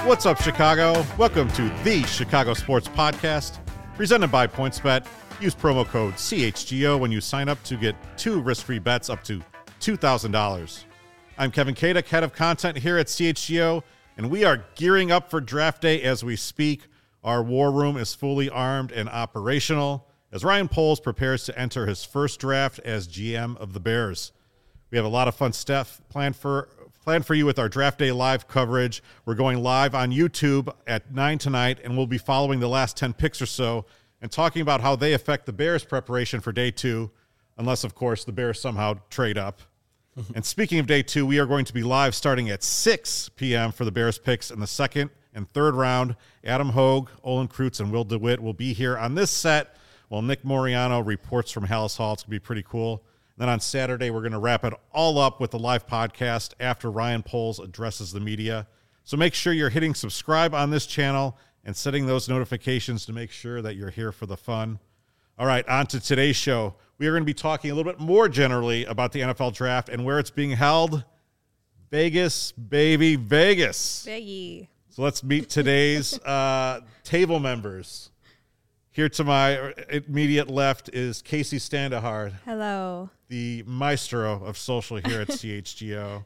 What's up, Chicago? Welcome to the Chicago Sports Podcast, presented by PointsBet. Use promo code CHGO when you sign up to get 2 risk-free bets up to $2,000. I'm Kevin Kadek, head of content here at CHGO, and we are gearing up for draft day as we speak. Our war room is fully armed and operational as Ryan Poles prepares to enter his first draft as GM of the Bears. We have a lot of fun stuff planned for you with our draft day live coverage. We're going live on YouTube at 9 tonight, and we'll be following the last 10 picks or so and talking about how they affect the Bears' preparation for day 2, unless, of course, the Bears somehow trade up. And speaking of day 2, we are going to be live starting at 6 p.m. for the Bears picks in the second and third round. Adam Hogue, Olin Kreutz, and Will DeWitt will be here on this set while Nick Moriano reports from Hallis Hall. It's going to be pretty cool. Then on Saturday, we're going to wrap it all up with the live podcast after Ryan Poles addresses the media. So make sure you're hitting subscribe on this channel and setting those notifications to make sure that you're here for the fun. All right, on to today's show. We are going to be talking a little bit more generally about the NFL draft and where it's being held. Vegas, baby, Vegas. Biggie. So let's meet today's table members. Here to my immediate left is Casey Standahard. Hello. The maestro of social here at CHGO.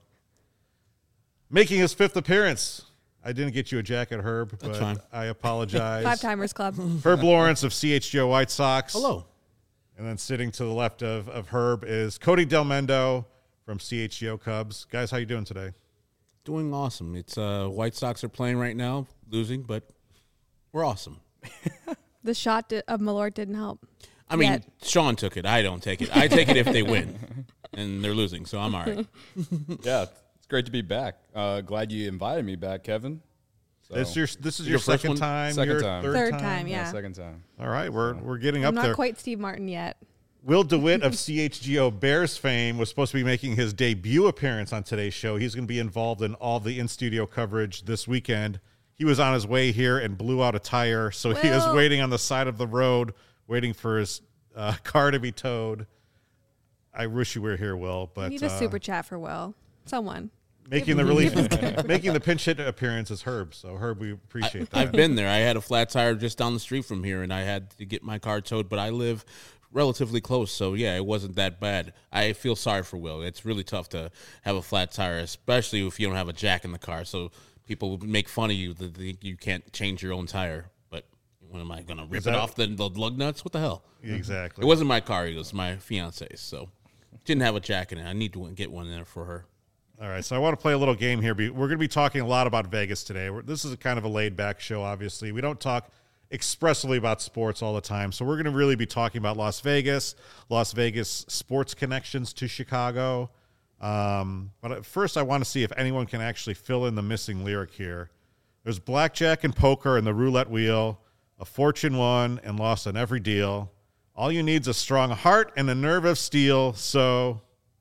Making his 5th appearance. I didn't get you a jacket, Herb, but That's fine. I apologize. 5-Timers Club. Herb Lawrence of CHGO White Sox. Hello. And then sitting to the left of Herb is Cody Delmendo from CHGO Cubs. Guys, how you doing today? Doing awesome. It's White Sox are playing right now, losing, but we're awesome. The shot of Malort didn't help. I mean, Yet. Sean took it. I don't take it. I take it if they win, and they're losing, so I'm all right. Yeah, it's great to be back. Glad you invited me back, Kevin. So, This is your Your first second one? time? Second your time. Third time, yeah. second time. All right, we're getting I'm up not there. quite Steve Martin yet. Will DeWitt of CHGO Bears fame was supposed to be making his debut appearance on today's show. He's going to be involved in all the in-studio coverage this weekend. He was on his way here and blew out a tire, so he is waiting on the side of the road, waiting for his car to be towed. I wish you were here, Will, but I need a super chat for Will. Someone. making the making the pinch hit appearance is Herb. So Herb, we appreciate that. I've been there. I had a flat tire just down the street from here, and I had to get my car towed, but I live relatively close, so yeah, it wasn't that bad. I feel sorry for Will. It's really tough to have a flat tire, especially if you don't have a jack in the car, so people make fun of you that you can't change your own tire. But when am I going to rip it off the lug nuts? What the hell? Exactly. It wasn't my car. It was my fiance's, so didn't have a jack in it. I need to get one there for her. All right, so I want to play a little game here. We're going to be talking a lot about Vegas today. This is a kind of a laid-back show, obviously. We don't talk expressly about sports all the time, so we're going to really be talking about Las Vegas sports connections to Chicago. But at first, I want to see if anyone can actually fill in the missing lyric here. There's blackjack and poker and the roulette wheel, a fortune won and lost on every deal. All you need's a strong heart and a nerve of steel, so...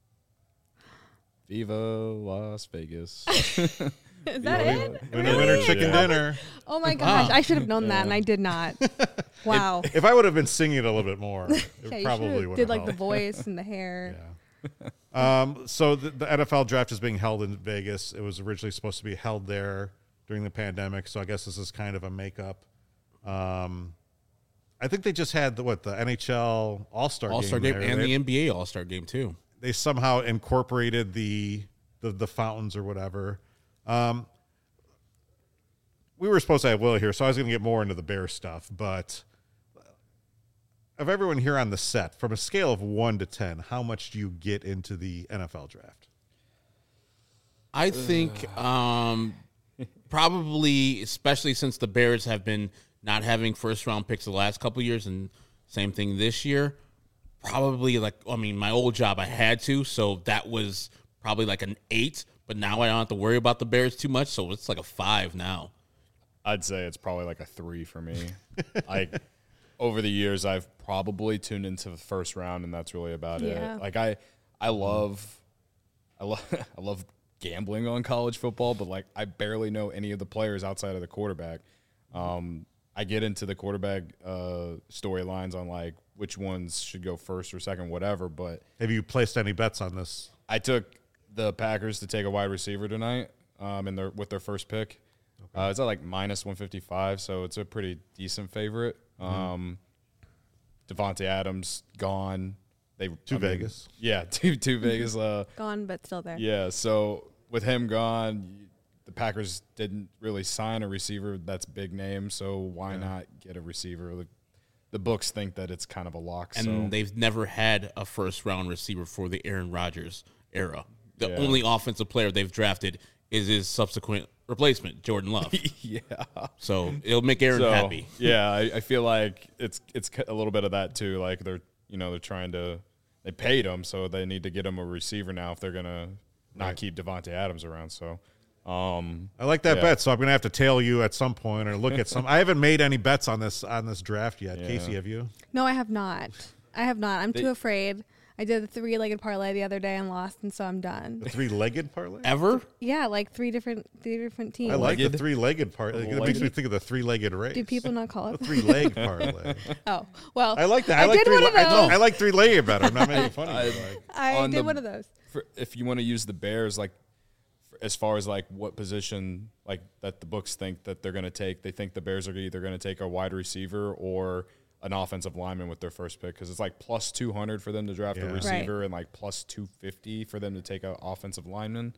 Viva Las Vegas. Is that it? Winner, chicken dinner. Oh my gosh. I should have known that, and I did not. Wow. If I would have been singing it a little bit more, it Yeah, you probably should've would did have like the helped. voice and the hair. So the NFL draft is being held in Vegas. It was originally supposed to be held there during the pandemic, so I guess this is kind of a makeup. I think they just had the NHL All-Star game there. and the NBA All-Star game too. They somehow incorporated the fountains or whatever. We were supposed to have Will here, so I was going to get more into the Bears stuff, but of everyone here on the set, from a scale of 1 to 10, how much do you get into the NFL draft? I think probably, especially since the Bears have been not having first-round picks the last couple of years, and same thing this year, probably my old job I had to, so that was probably like an 8, but now I don't have to worry about the Bears too much, so it's like a 5 now. I'd say it's probably like a 3 for me. Over the years, I've probably tuned into the first round, and that's really about Yeah. it. Like I love gambling on college football, but I barely know any of the players outside of the quarterback. I get into the quarterback storylines on which ones should go first or second, whatever. But have you placed any bets on this? I took the Packers to take a wide receiver tonight with their first pick. It's at like minus 155, so it's a pretty decent favorite. Devontae Adams gone. Vegas. Yeah, to Vegas. Gone, but still there. Yeah, so with him gone, the Packers didn't really sign a receiver that's big name, so why not get a receiver? The books think that it's kind of a lock. And they've never had a first-round receiver for the Aaron Rodgers era. The only offensive player they've drafted is his subsequent replacement, Jordan Love. Yeah. So it'll make Aaron happy. Yeah, I feel like it's a little bit of that too. Like they're trying to – they paid him, so they need to get him a receiver now if they're going to not keep Devontae Adams around. So I like that bet, so I'm going to have to tail you at some point or look at some – I haven't made any bets on this draft yet. Yeah. Casey, have you? No, I have not. I'm too afraid. I did the 3-legged parlay the other day and lost, and so I'm done. The 3-legged parlay? Ever? Yeah, like three different teams. I like the 3-legged parlay. It makes me think of the 3-legged race. Do people not call it the 3-leg parlay? Oh, well. I like that. I did one of those. I like 3-legged better. I'm not making fun of you. I did one of those. If you want to use the Bears, like as far as like what position like that the books think that they're going to take, they think the Bears are either going to take a wide receiver or an offensive lineman with their first pick, because it's like plus 200 for them to draft a receiver and like plus 250 for them to take an offensive lineman.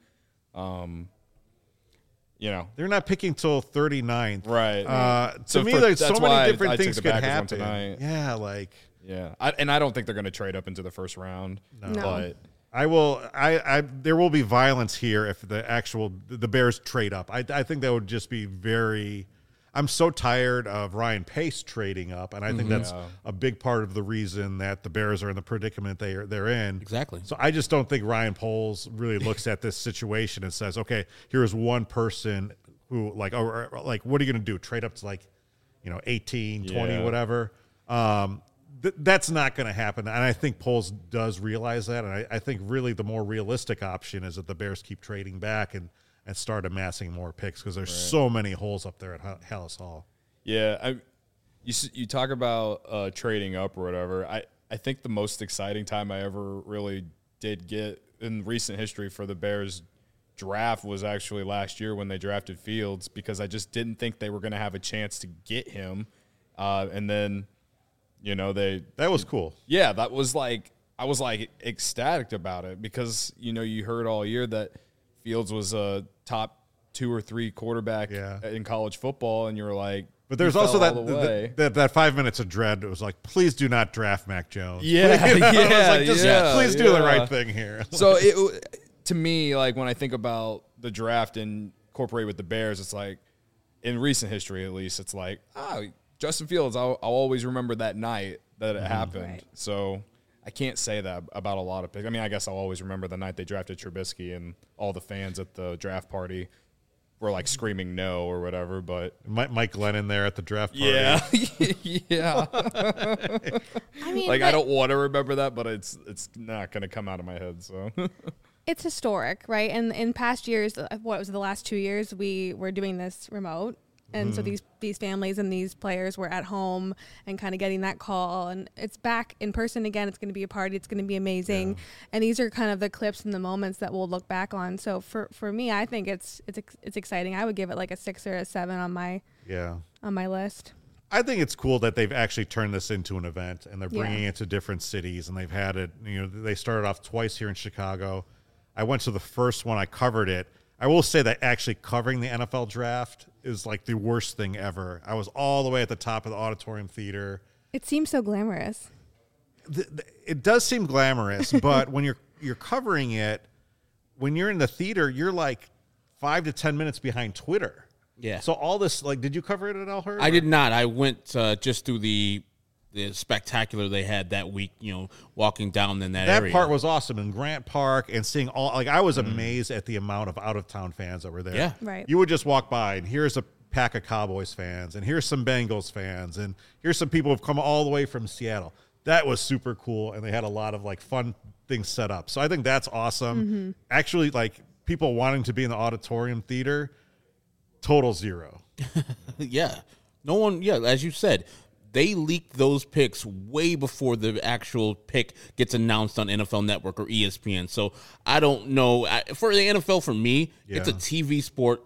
They're not picking till 39th. Right. To me, there's so many different things could happen. Yeah, like. Yeah. I don't think they're going to trade up into the first round. No. But there will be violence here if the Bears trade up. I think that would just be very. I'm so tired of Ryan Pace trading up, and I think that's a big part of the reason that the Bears are in the predicament they're in. Exactly. So I just don't think Ryan Poles really looks at this situation and says, okay, here's one person who what are you going to do? Trade up to 18, 20, whatever. That's not going to happen. And I think Poles does realize that. And I think really the more realistic option is that the Bears keep trading back and start amassing more picks, because there's so many holes up there at Hallis Hall. Yeah, you talk about trading up or whatever. I think the most exciting time I ever really did get in recent history for the Bears draft was actually last year when they drafted Fields, because I just didn't think they were going to have a chance to get him. And then, that was cool. Yeah, that was I was ecstatic about it, because, you heard all year that Fields was a top 2 or 3 quarterback in college football, and you were like, but there's also that 5 minutes of dread. It was like, please do not draft Mac Jones. Yeah, please do the right thing here. So to me, when I think about the draft and incorporate with the Bears, it's like, in recent history at least, it's like, Justin Fields, I'll always remember that night that it happened. Right. So I can't say that about a lot of picks. I mean, I guess I'll always remember the night they drafted Trubisky and all the fans at the draft party were screaming no or whatever. But Mike Glennon there at the draft party. Yeah, yeah. I mean, I don't want to remember that, but it's not going to come out of my head. So it's historic, right? And in past years, what was it, the last 2 years, we were doing this remote. And so these families and these players were at home and kind of getting that call, and it's back in person again. It's going to be a party. It's going to be amazing. Yeah. And these are kind of the clips and the moments that we'll look back on. So for me, I think it's exciting. I would give it a 6 or a 7 on my list. I think it's cool that they've actually turned this into an event, and they're bringing it to different cities, and they've had it. They started off twice here in Chicago. I went to the first one. I covered it. I will say that actually covering the NFL draft is the worst thing ever. I was all the way at the top of the auditorium theater. It seems so glamorous. It does seem glamorous, but when you're covering it, when you're in the theater, you're 5 to 10 minutes behind Twitter. Yeah. So all this, did you cover it at El Hurd? I did not. I went just through the spectacular they had that week, walking down in that area. That part was awesome in Grant Park, and seeing all, I was amazed at the amount of out-of-town fans that were there. Yeah. Right. You would just walk by, and here's a pack of Cowboys fans, and here's some Bengals fans, and here's some people who've come all the way from Seattle. That was super cool, and they had a lot of, fun things set up. So I think that's awesome. Mm-hmm. Actually, people wanting to be in the auditorium theater, total zero. Yeah. No one, as you said, they leaked those picks way before the actual pick gets announced on NFL Network or ESPN. So I don't know. For the NFL, for me, it's a TV sport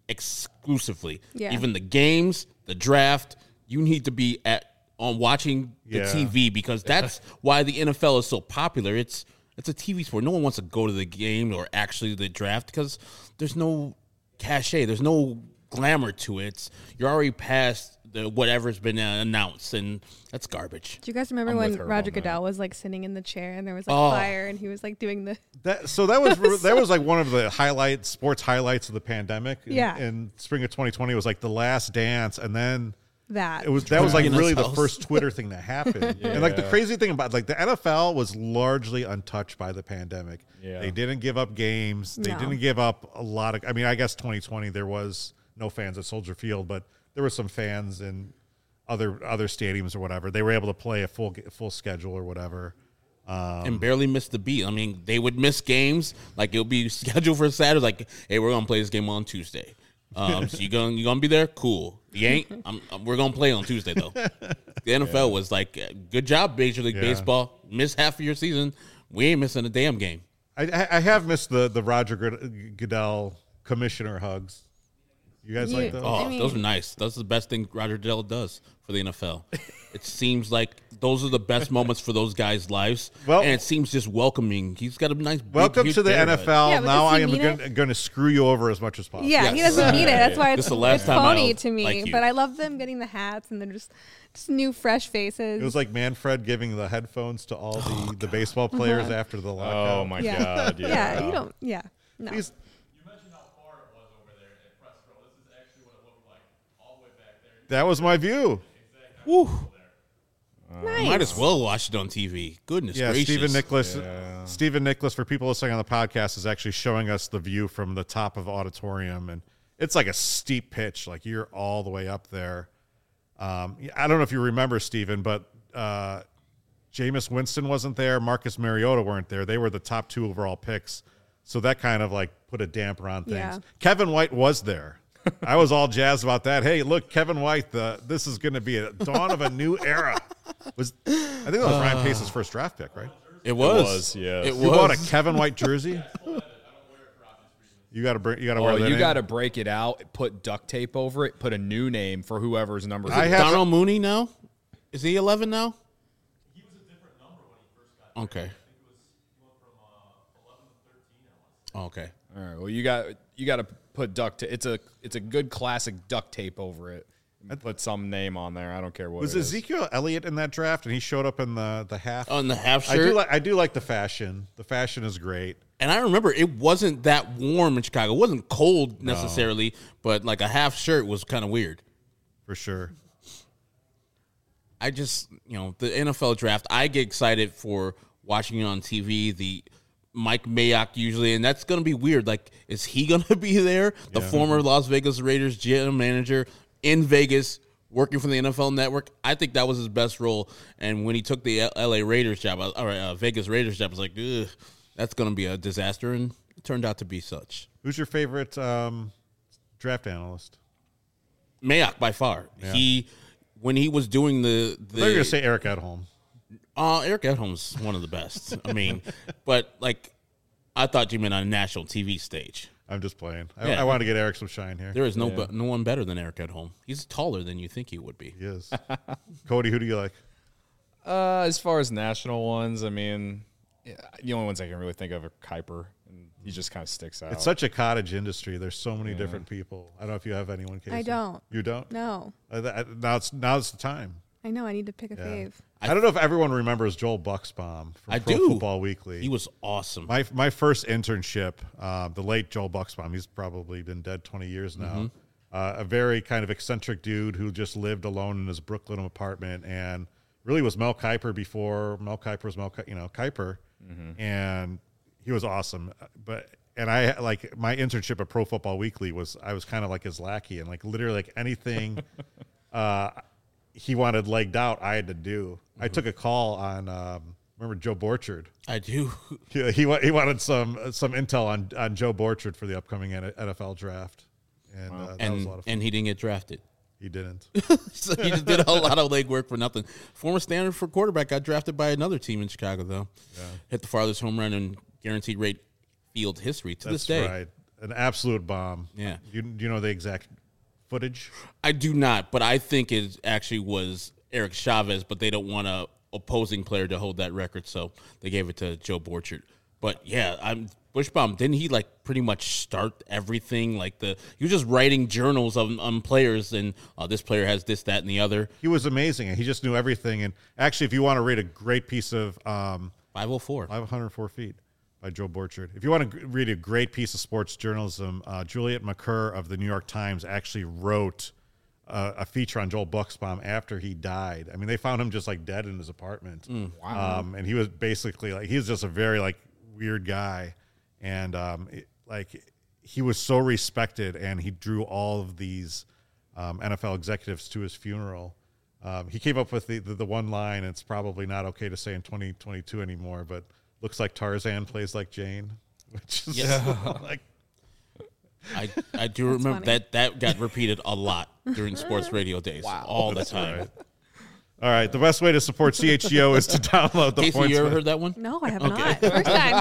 exclusively. Yeah. Even the games, the draft, you need to be on watching the TV, because that's why the NFL is so popular. It's a TV sport. No one wants to go to the game or actually the draft because there's no cachet. There's no glamour to it. You're already past whatever's been announced, and that's garbage. Do you guys remember when Roger Goodell was like sitting in the chair and there was like fire and he was like doing the that was like one of the sports highlights of the pandemic. In spring of 2020, it was like The Last Dance, and then that was like really the first Twitter thing that happened. And like the crazy thing about like the NFL was largely untouched by the pandemic. They didn't give up games. They didn't give up a lot of. I mean, I guess 2020 there was no fans at Soldier Field, but there were some fans in other stadiums or whatever. They were able to play a full schedule or whatever. And barely missed the beat. I mean, they would miss games. Like, it'll be scheduled for Saturday. Like, hey, we're going to play this game on Tuesday. So you gonna be there? Cool. You ain't? We're going to play on Tuesday, though. The NFL was like, good job, Major League Baseball. Missed half of your season. We ain't missing a damn game. I have missed the Roger Goodell commissioner hugs. You guys like those? Oh, those are nice. That's the best thing Roger Goodell does for the NFL. It seems like those are the best moments for those guys' lives. Well, and it seems just welcoming. He's got a nice welcome to the NFL. Now I am going to screw you over as much as possible. Yeah, he doesn't need it. That's why it's phony to me. Like but I love them getting the hats and they're just new, fresh faces. It was like Manfred giving the headphones to all the baseball players after the lockout. Oh, my God. Yeah, you don't. Yeah. No. That was my view. Woo. Nice. Might as well watch it on TV. Goodness gracious. Stephen Nicholas, for people listening on the podcast, is actually showing us the view from the top of auditorium, and it's like a steep pitch. Like, you're all the way up there. I don't know if you remember, Stephen, but Jameis Winston wasn't there. Marcus Mariota weren't there. They were the top 2 overall picks, so that kind of like put a damper on things. Yeah. Kevin White was there. I was all jazzed about that. Hey, look, Kevin White, this is going to be a dawn of a new era. I think that was Ryan Pace's first draft pick, right? It was. Yeah. You bought a Kevin White jersey? You got to wear that. You got to break it out, put duct tape over it, put a new name for whoever's number. Darnell Mooney now? Is he 11 now? He was a different number when he first got there. Okay. I think he went from 11 to 13. Okay. All right. Well, you got to put duct tape. It's a good classic duct tape over it. Put some name on there. I don't care what. Was it is. Ezekiel Elliott in that draft, and he showed up in the half? On the half shirt. I do like the fashion. The fashion is great. And I remember it wasn't that warm in Chicago. It wasn't cold necessarily, but like a half shirt was kind of weird. For sure. I just, the NFL draft, I get excited for watching it on TV. The Mike Mayock usually, and that's going to be weird. Like, is he going to be there? The former Las Vegas Raiders general manager in Vegas, working for the NFL Network. I think that was his best role. And when he took the LA Raiders job, or Vegas Raiders job, I was like, ugh, that's going to be a disaster, and it turned out to be such. Who's your favorite draft analyst? Mayock, by far. Yeah. When he was doing the I thought you were going to say Eric Edholm. Eric Edholm's one of the best. I mean, but like, I thought you meant on a national TV stage. I'm just playing. I want to get Eric some shine here. There is no one better than Eric Edholm. He's taller than you think he would be. He is. Cody, who do you like? As far as national ones, I mean, the only ones I can really think of are Kuiper, and he just kind of sticks out. It's such a cottage industry. There's so many different people. I don't know if you have anyone, Casey. I don't. You don't? No. Now's the time. I know. I need to pick a fave. I don't know if everyone remembers Joel Buxbaum from Pro Football Weekly. He was awesome. My first internship, the late Joel Buxbaum, he's probably been dead 20 years now. A very kind of eccentric dude who just lived alone in his Brooklyn apartment and really was Mel Kiper before Mel Kiper was Kiper. And he was awesome. And I like my internship at Pro Football Weekly I was kind of like his lackey, and like literally like anything he wanted legged out, I had to do. I took a call on remember Joe Borchard? I do. He wanted some intel on Joe Borchard for the upcoming NFL draft, and that was a lot of fun. And he didn't get drafted. He didn't. So he just did a lot of legwork for nothing. Former Stanford quarterback got drafted by another team in Chicago, though. Yeah. Hit the farthest home run in guaranteed rate field history to this day. Right. an absolute bomb. Yeah. Do you know the exact footage? I do not, but I think it actually was Eric Chavez, but they don't want a opposing player to hold that record, so they gave it to Joe Borchert. But yeah, Bushbaum, didn't he like pretty much start everything? Like he was just writing journals on players, and this player has this, that, and the other. He was amazing, and he just knew everything. And actually, if you want to read a great piece of 504 feet by Joe Borchert, if you want to read a great piece of sports journalism, Juliet McCurr of the New York Times actually wrote a feature on Joel Bushbaum after he died. I mean, they found him just like dead in his apartment. Wow. And he was basically like, he was just a very like weird guy. And he was so respected, and he drew all of these NFL executives to his funeral. He came up with the one line, it's probably not okay to say in 2022 anymore, but looks like Tarzan plays like Jane, which is like. I do remember funny. that got repeated a lot during sports radio days, all the time. Right. All right, the best way to support CHGO is to download the Casey, points. you ever heard that one? No, I have not. First time.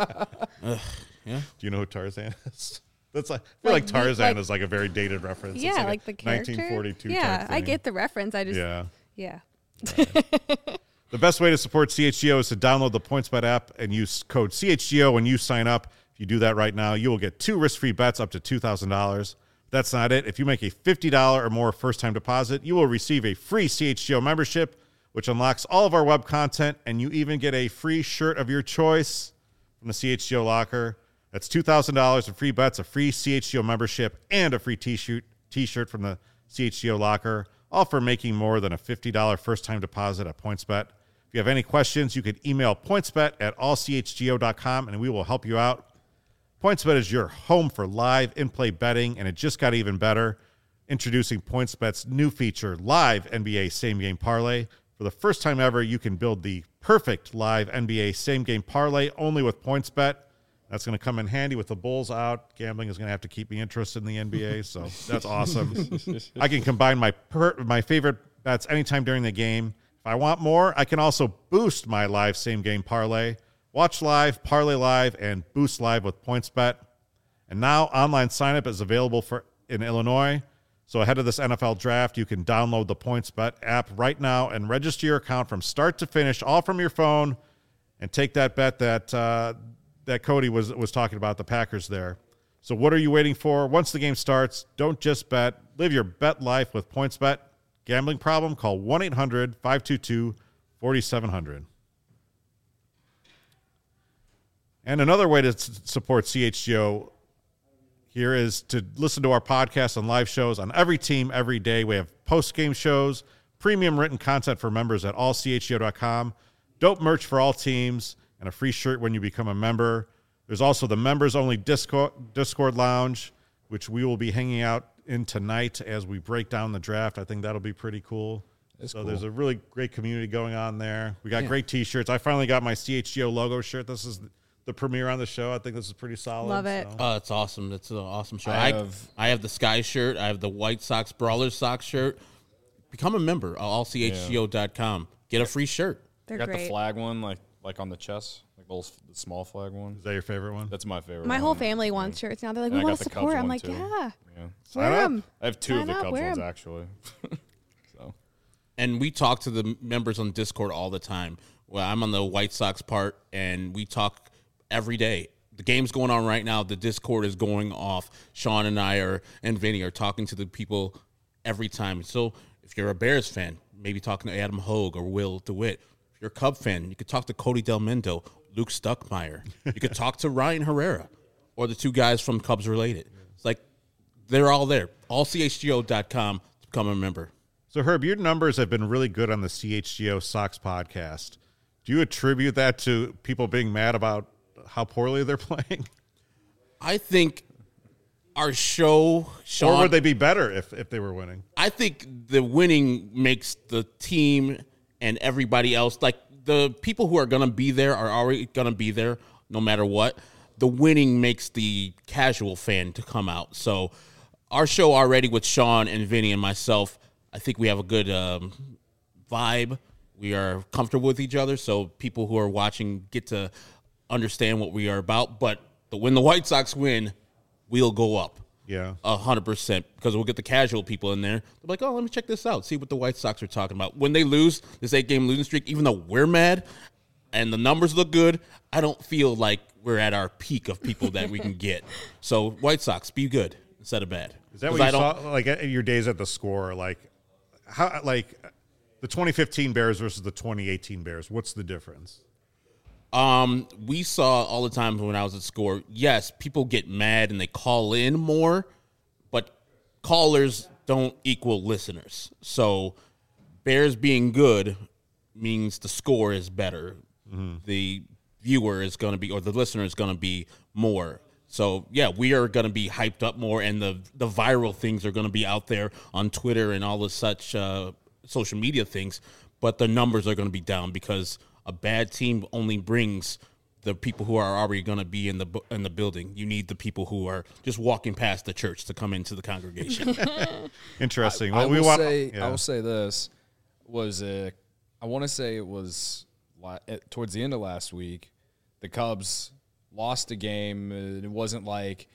Yeah. Do you know who Tarzan is? That's like, I feel like Tarzan is like a very dated reference. Yeah, It's like the character. 1942 Yeah, type I thing. get the reference. I just Yeah. yeah. The best way to support CHGO is to download the PointsBet app and use code CHGO when you sign up. If you do that right now, you will get 2 risk-free bets up to $2,000. That's not it. If you make a $50 or more first-time deposit, you will receive a free CHGO membership, which unlocks all of our web content, and you even get a free shirt of your choice from the CHGO locker. That's $2,000 in free bets, a free CHGO membership, and a free t-shirt from the CHGO locker, all for making more than a $50 first-time deposit at PointsBet. If you have any questions, you can email pointsbet@allchgo.com, and we will help you out. PointsBet is your home for live in-play betting, and it just got even better. Introducing PointsBet's new feature, Live NBA Same Game Parlay. For the first time ever, you can build the perfect live NBA Same Game Parlay only with PointsBet. That's going to come in handy with the Bulls out. Gambling is going to have to keep me interested in the NBA, so that's awesome. I can combine my favorite bets anytime during the game. If I want more, I can also boost my live Same Game Parlay. Watch live, parlay live, and boost live with PointsBet. And now online signup is available in Illinois. So ahead of this NFL draft, you can download the PointsBet app right now and register your account from start to finish, all from your phone, and take that bet that Cody was talking about, the Packers there. So what are you waiting for? Once the game starts, don't just bet. Live your bet life with PointsBet. Gambling problem? Call 1-800-522-4700. And another way to support CHGO here is to listen to our podcasts and live shows on every team every day. We have post-game shows, premium written content for members at allchgo.com, dope merch for all teams, and a free shirt when you become a member. There's also the members-only Discord lounge, which we will be hanging out in tonight as we break down the draft. I think that'll be pretty cool. So there's a really great community going on there. We got great T-shirts. I finally got my CHGO logo shirt. This is the premiere on the show. I think this is pretty solid. Love it. Oh, it's awesome. It's an awesome show. I I have the Sky shirt. I have the White Sox Brawlers Sox shirt. Become a member at allchgo.com. Get a free shirt. They're got great. the flag one, like on the chest, like the small flag one. Is that your favorite one? That's my favorite. My one. whole family wants shirts now. They're like, And we I want got to the Cubs support. I'm one, like, too. yeah. Yeah. Wear them. I have 2 of Sign the up, Cubs wear ones 'em. actually. So And we talk to the members on Discord all the time. Well, I'm on the White Sox part, and we talk every day. The game's going on right now. The Discord is going off. Sean and I and Vinny are talking to the people every time. So if you're a Bears fan, maybe talking to Adam Hogue or Will DeWitt. If you're a Cub fan, you could talk to Cody Del Mendo, Luke Stuckmeyer. You could talk to Ryan Herrera or the 2 guys from Cubs Related. It's like they're all there. Allchgo.com to become a member. So, Herb, your numbers have been really good on the CHGO Sox podcast. Do you attribute that to people being mad about how poorly they're playing? I think our show, Sean, Or would they be better if they were winning? I think the winning makes the team and everybody else, like the people who are going to be there are already going to be there no matter what. The winning makes the casual fan to come out. So our show already with Sean and Vinny and myself, I think we have a good vibe. We are comfortable with each other, so people who are watching get to understand what we are about. But when the White Sox win, we'll go up. Yeah. 100%, because we'll get the casual people in there. They're like, oh, let me check this out, see what the White Sox are talking about. When they lose this 8-game losing streak, even though we're mad and the numbers look good, I don't feel like we're at our peak of people that we can get. So White Sox, be good instead of bad. Is that what you saw, like, at your days at the Score? Like, how, like, the 2015 Bears versus the 2018 Bears, what's the difference? We saw all the time when I was at Score, yes, people get mad and they call in more, but callers don't equal listeners. So Bears being good means the score is better. The viewer is going to be, or the listener is going to be more. So, yeah, we are going to be hyped up more, and the viral things are going to be out there on Twitter and all the such social media things, but the numbers are going to be down because a bad team only brings the people who are already going to be in the building. You need the people who are just walking past the church to come into the congregation. Interesting. I Well, will say this was I want to say it was towards the end of last week. The Cubs lost a game. It wasn't like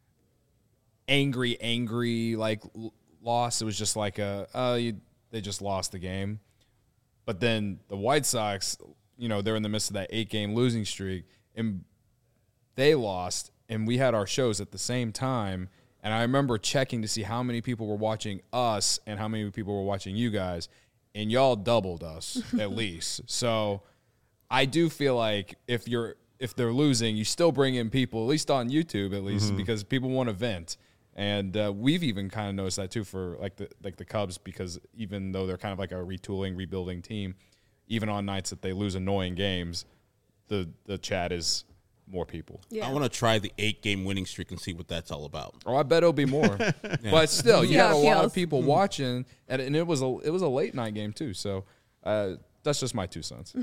angry like loss. It was just like they just lost the game. But then the White Sox, they're in the midst of that 8-game losing streak, and they lost, and we had our shows at the same time. And I remember checking to see how many people were watching us and how many people were watching you guys, and y'all doubled us at least. So I do feel like if they're losing, you still bring in people, at least on YouTube, at least, because people want to vent. And we've even kind of noticed that too for the Cubs, because even though they're kind of like a retooling, rebuilding team, even on nights that they lose annoying games, the chat is more people. Yeah. I want to try the 8-game winning streak and see what that's all about. Oh, I bet it'll be more. But still, you Yeah, had a it lot of feels. people watching, and it was a late night game too. So that's just my 2 cents.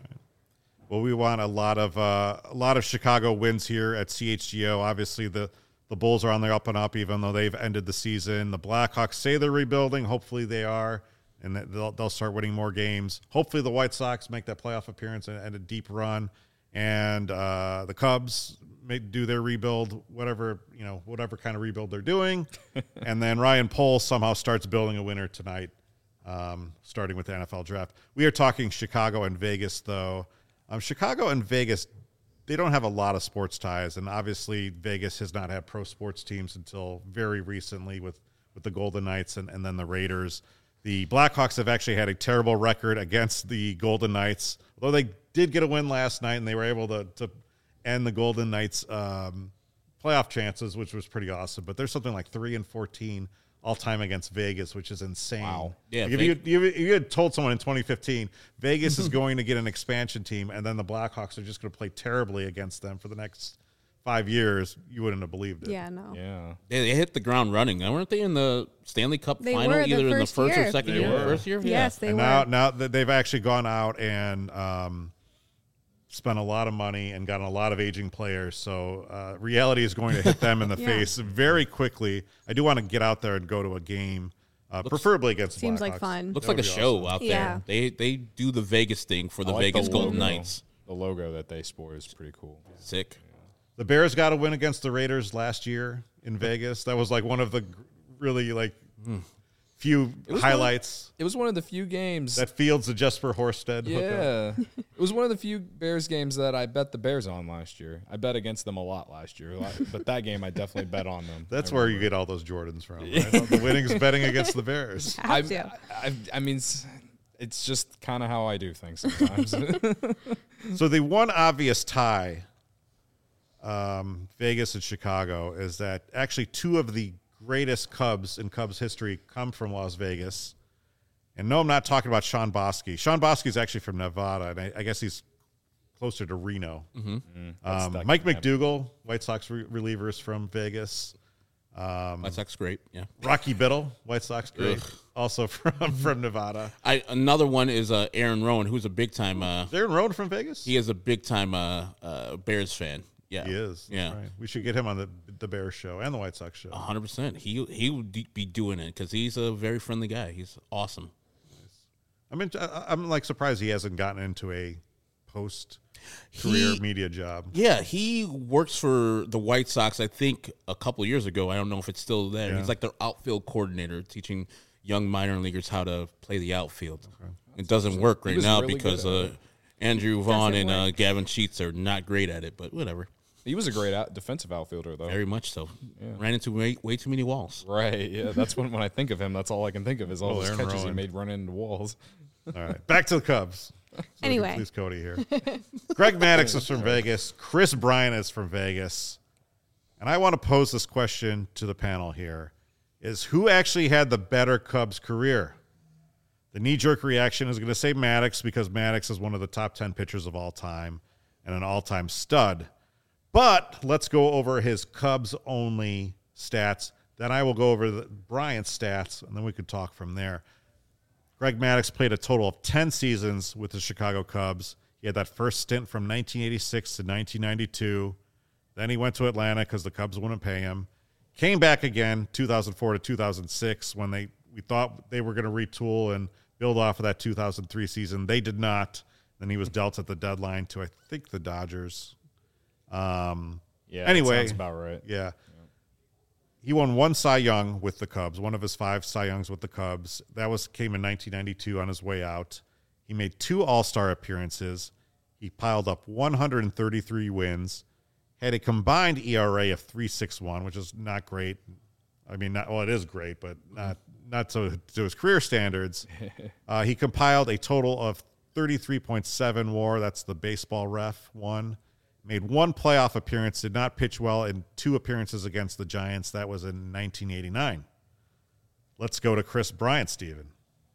Well, we want a lot of Chicago wins here at CHGO. Obviously, the Bulls are on their up and up, even though they've ended the season. The Blackhawks say they're rebuilding. Hopefully they are, and that they'll start winning more games. Hopefully the White Sox make that playoff appearance and a deep run, and the Cubs do their rebuild, whatever kind of rebuild they're doing. And then Ryan Pohl somehow starts building a winner tonight, starting with the NFL draft. We are talking Chicago and Vegas, though. Chicago and Vegas, they don't have a lot of sports ties, and obviously Vegas has not had pro sports teams until very recently with the Golden Knights and then the Raiders. The Blackhawks have actually had a terrible record against the Golden Knights, although they did get a win last night, and they were able to end the Golden Knights' playoff chances, which was pretty awesome. But there's something like 3-14 all-time against Vegas, which is insane. Wow. Yeah, Like if you had told someone in 2015 Vegas is going to get an expansion team and then the Blackhawks are just going to play terribly against them for the next 5 years, you wouldn't have believed it. Yeah, no. Yeah. They hit the ground running. Weren't they in the Stanley Cup They final were the either in the first first year. or second They year? were. First year? Yes, they And were. now that they've actually gone out and spent a lot of money and gotten a lot of aging players. So reality is going to hit them in the Yeah. face very quickly. I do want to get out there and go to a game, preferably against the Seems Blackhawks. like fun. Looks That like a would be show awesome. out Yeah. there. They do the Vegas thing for the I like Vegas the Golden logo. Knights. The logo that they sport is pretty cool. Sick. The Bears got a win against the Raiders last year in Vegas. That was like one of the really few highlights. It was one of the few games. That Fields and Jesper Horsted hookup. Yeah. It was one of the few Bears games that I bet the Bears on last year. I bet against them a lot last year, but that game I definitely bet on them. That's where you get all those Jordans from, right? The winnings betting against the Bears. Have to. I mean, it's just kind of how I do things sometimes. So the one obvious tie, Vegas and Chicago, is that actually two of the greatest Cubs in Cubs history come from Las Vegas. And no, I'm not talking about Sean Bosky. Sean Bosky is actually from Nevada, and I guess he's closer to Reno. That Mike can happen. McDougal, White Sox relievers from Vegas. White Sox great. Yeah. Rocky Biddle, White Sox great, also from Nevada. Another one is Aaron Rowan, who's a big time. Is Aaron Rowan from Vegas? He is a big time Bears fan. Yeah, He is. That's Yeah, right. We should get him on the Bears show and the White Sox show. 100%. He would be doing it because he's a very friendly guy. He's awesome. I'm like surprised he hasn't gotten into a post career media job. Yeah, he works for the White Sox, I think, a couple of years ago. I don't know if it's still there. Yeah. He's like their outfield coordinator, teaching young minor leaguers how to play the outfield. Okay. It doesn't work right now really because Andrew Vaughn and Gavin Sheets are not great at it, but whatever. He was a great defensive outfielder, though. Very much so. Yeah. Ran into way too many walls. Right, yeah. That's when I think of him, that's all I can think of is all those catches he made running into walls. All right, back to the Cubs. So anyway. Please, Cody here. Greg Maddux is from Vegas. Chris Bryant is from Vegas. And I want to pose this question to the panel here, is who actually had the better Cubs career? The knee-jerk reaction is going to say Maddux because Maddux is one of the top 10 pitchers of all time and an all-time stud. But let's go over his Cubs-only stats. Then I will go over Bryant's stats, and then we could talk from there. Greg Maddux played a total of 10 seasons with the Chicago Cubs. He had that first stint from 1986 to 1992. Then he went to Atlanta because the Cubs wouldn't pay him. Came back again 2004 to 2006 when we thought they were going to retool and build off of that 2003 season. They did not. Then he was dealt at the deadline to, I think, the Dodgers. Anyway, that sounds about right. Yeah. He won one Cy Young with the Cubs, one of his 5 Cy Youngs with the Cubs. That came in 1992 on his way out. He made 2 All-Star appearances. He piled up 133 wins, had a combined ERA of 3.61, which is not great. I mean, it is great, but not to his career standards. He compiled a total of 33.7 WAR. That's the baseball ref one. Made 1 playoff appearance, did not pitch well in 2 appearances against the Giants. That was in 1989. Let's go to Chris Bryant, Steven.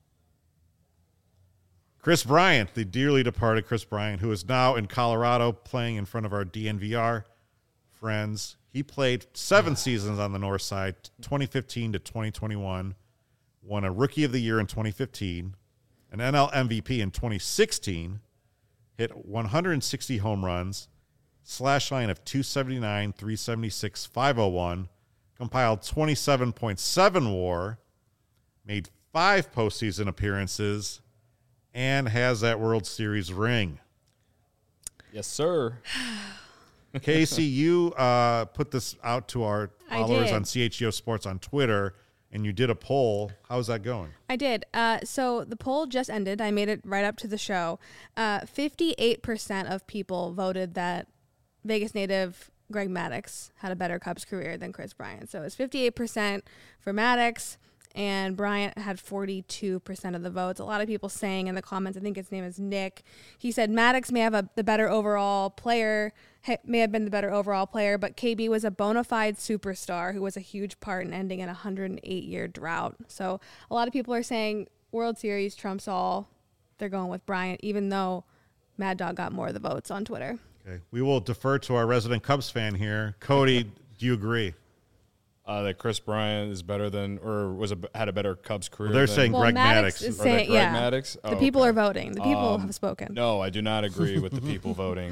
Chris Bryant, the dearly departed Chris Bryant, who is now in Colorado playing in front of our DNVR friends. He played 7 seasons on the north side, 2015 to 2021, won a Rookie of the Year in 2015, an NL MVP in 2016, hit 160 home runs, slash line of 279, 376, 501, compiled 27.7 WAR, made 5 postseason appearances, and has that World Series ring. Yes, sir. Casey, you put this out to our followers on CHGO Sports on Twitter, and you did a poll. How's that going? I did. So the poll just ended. I made it right up to the show. 58% of people voted that Vegas native Greg Maddux had a better Cubs career than Chris Bryant. So it's 58% for Maddux, and Bryant had 42% of the votes. A lot of people saying in the comments, I think his name is Nick, he said Maddux may have been the better overall player, but KB was a bona fide superstar who was a huge part in ending an 108-year drought. So a lot of people are saying World Series trumps all. They're going with Bryant, even though Mad Dog got more of the votes on Twitter. Okay, we will defer to our resident Cubs fan here. Cody, do you agree? That Chris Bryant is better than, or had a better Cubs career. Well, they're saying Greg Maddux. Is saying, Greg Maddux? Oh, the people are voting. The people have spoken. No, I do not agree with the people voting.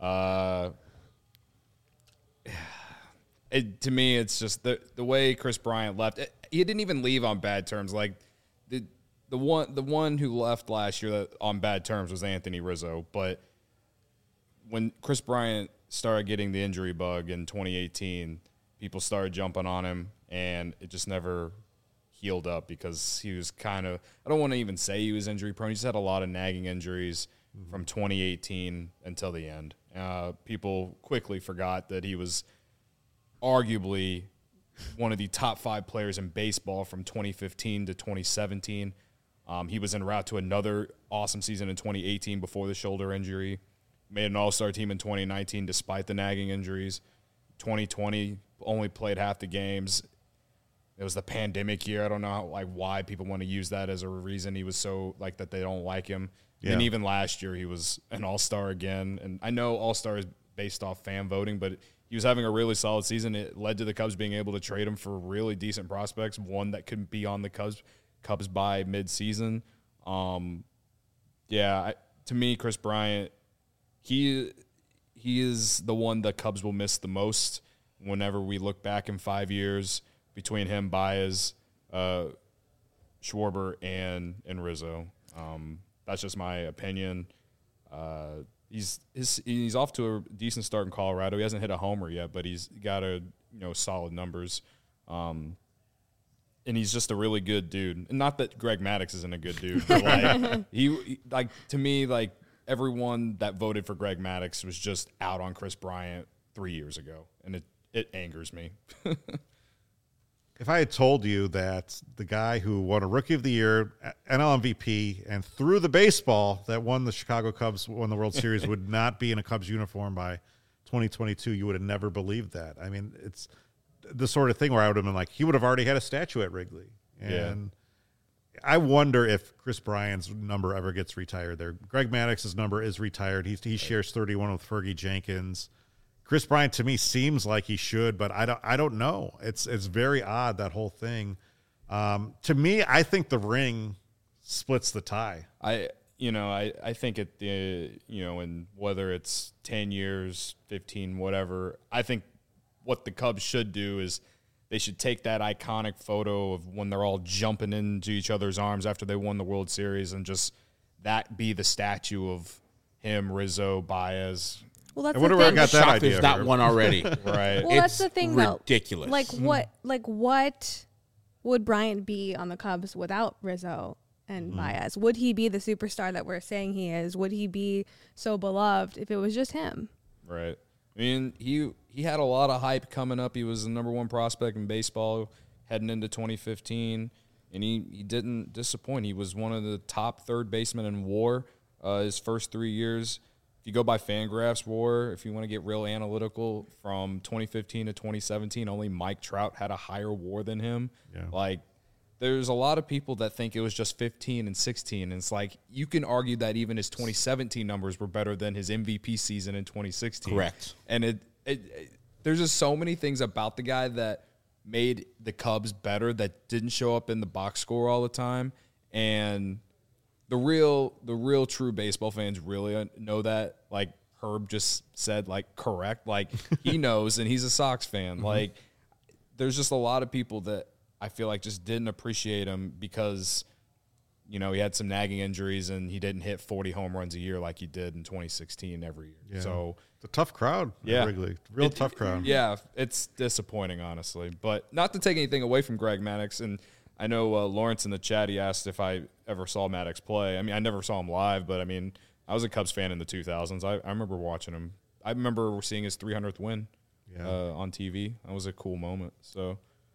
To me, it's just the way Chris Bryant left. He didn't even leave on bad terms. Like the one who left last year on bad terms was Anthony Rizzo. But when Chris Bryant started getting the injury bug in 2018, people started jumping on him, and it just never healed up because he was kind of – I don't want to even say he was injury prone. He just had a lot of nagging injuries from 2018 until the end. People quickly forgot that he was arguably one of the top 5 players in baseball from 2015 to 2017. He was en route to another awesome season in 2018 before the shoulder injury. Made an all-star team in 2019 despite the nagging injuries. 2020 only played half the games. It was the pandemic year. I don't know why people want to use that as a reason he was so that they don't like him. Yeah. And even last year he was an all-star again. And I know all-star is based off fan voting, but he was having a really solid season. It led to the Cubs being able to trade him for really decent prospects, one that could be on the Cubs by mid-season. To me, Chris Bryant, he is the one the Cubs will miss the most whenever we look back in 5 years between him, Baez, Schwarber, and Rizzo. That's just my opinion. he's off to a decent start in Colorado. He hasn't hit a homer yet, but he's got solid numbers. And he's just a really good dude. And not that Greg Maddux isn't a good dude, but to me, everyone that voted for Greg Maddux was just out on Chris Bryant 3 years ago, and it angers me. If I had told you that the guy who won a Rookie of the Year, NL MVP, and threw the baseball that won the Chicago Cubs, won the World Series, would not be in a Cubs uniform by 2022, you would have never believed that. I mean, it's the sort of thing where I would have been like, he would have already had a statue at Wrigley. And I wonder if Chris Bryant's number ever gets retired there. Greg Maddox's number is retired. He shares 31 with Fergie Jenkins. Chris Bryant, to me, seems like he should, but I don't know. It's very odd, that whole thing. To me, I think the ring splits the tie. I think in whether it's 10 years, 15, whatever, I think what the Cubs should do is they should take that iconic photo of when they're all jumping into each other's arms after they won the World Series and just that be the statue of him, Rizzo, Baez. Well, that's I wonder where I got that Shocked idea. there's not one already. Right. Well, that's the thing, though. Ridiculous. What would Bryant be on the Cubs without Rizzo and Baez? Would he be the superstar that we're saying he is? Would he be so beloved if it was just him? Right. I mean, he had a lot of hype coming up. He was the number one prospect in baseball heading into 2015, and he didn't disappoint. He was one of the top third basemen in WAR his first 3 years. If you go by Fangraphs WAR, if you want to get real analytical, from 2015 to 2017, only Mike Trout had a higher WAR than him. Yeah. There's a lot of people that think it was just 15 and 16. And it's you can argue that even his 2017 numbers were better than his MVP season in 2016. Correct. And there's just so many things about the guy that made the Cubs better that didn't show up in the box score all the time. And the real true baseball fans really know that. Herb just said, correct. He knows, and he's a Sox fan. There's just a lot of people that I feel just didn't appreciate him because, he had some nagging injuries and he didn't hit 40 home runs a year like he did in 2016 every year. Yeah. So it's a tough crowd at Wrigley. Tough crowd. Yeah, it's disappointing, honestly. But not to take anything away from Greg Maddux, and I know Lawrence in the chat, he asked if I ever saw Maddux play. I mean, I never saw him live, but, I was a Cubs fan in the 2000s. I remember watching him. I remember seeing his 300th win on TV. That was a cool moment. So,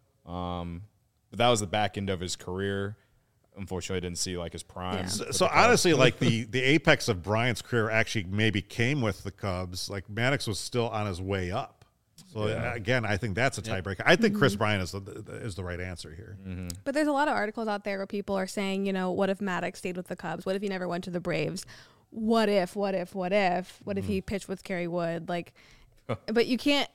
but that was the back end of his career. Unfortunately, I didn't see his prime. Yeah. So honestly, the apex of Bryant's career actually maybe came with the Cubs. Maddox was still on his way up. So again, I think that's a tiebreaker. I think Chris Bryant is the right answer here. Mm-hmm. But there's a lot of articles out there where people are saying, what if Maddux stayed with the Cubs? What if he never went to the Braves? What if he pitched with Kerry Wood? But you can't,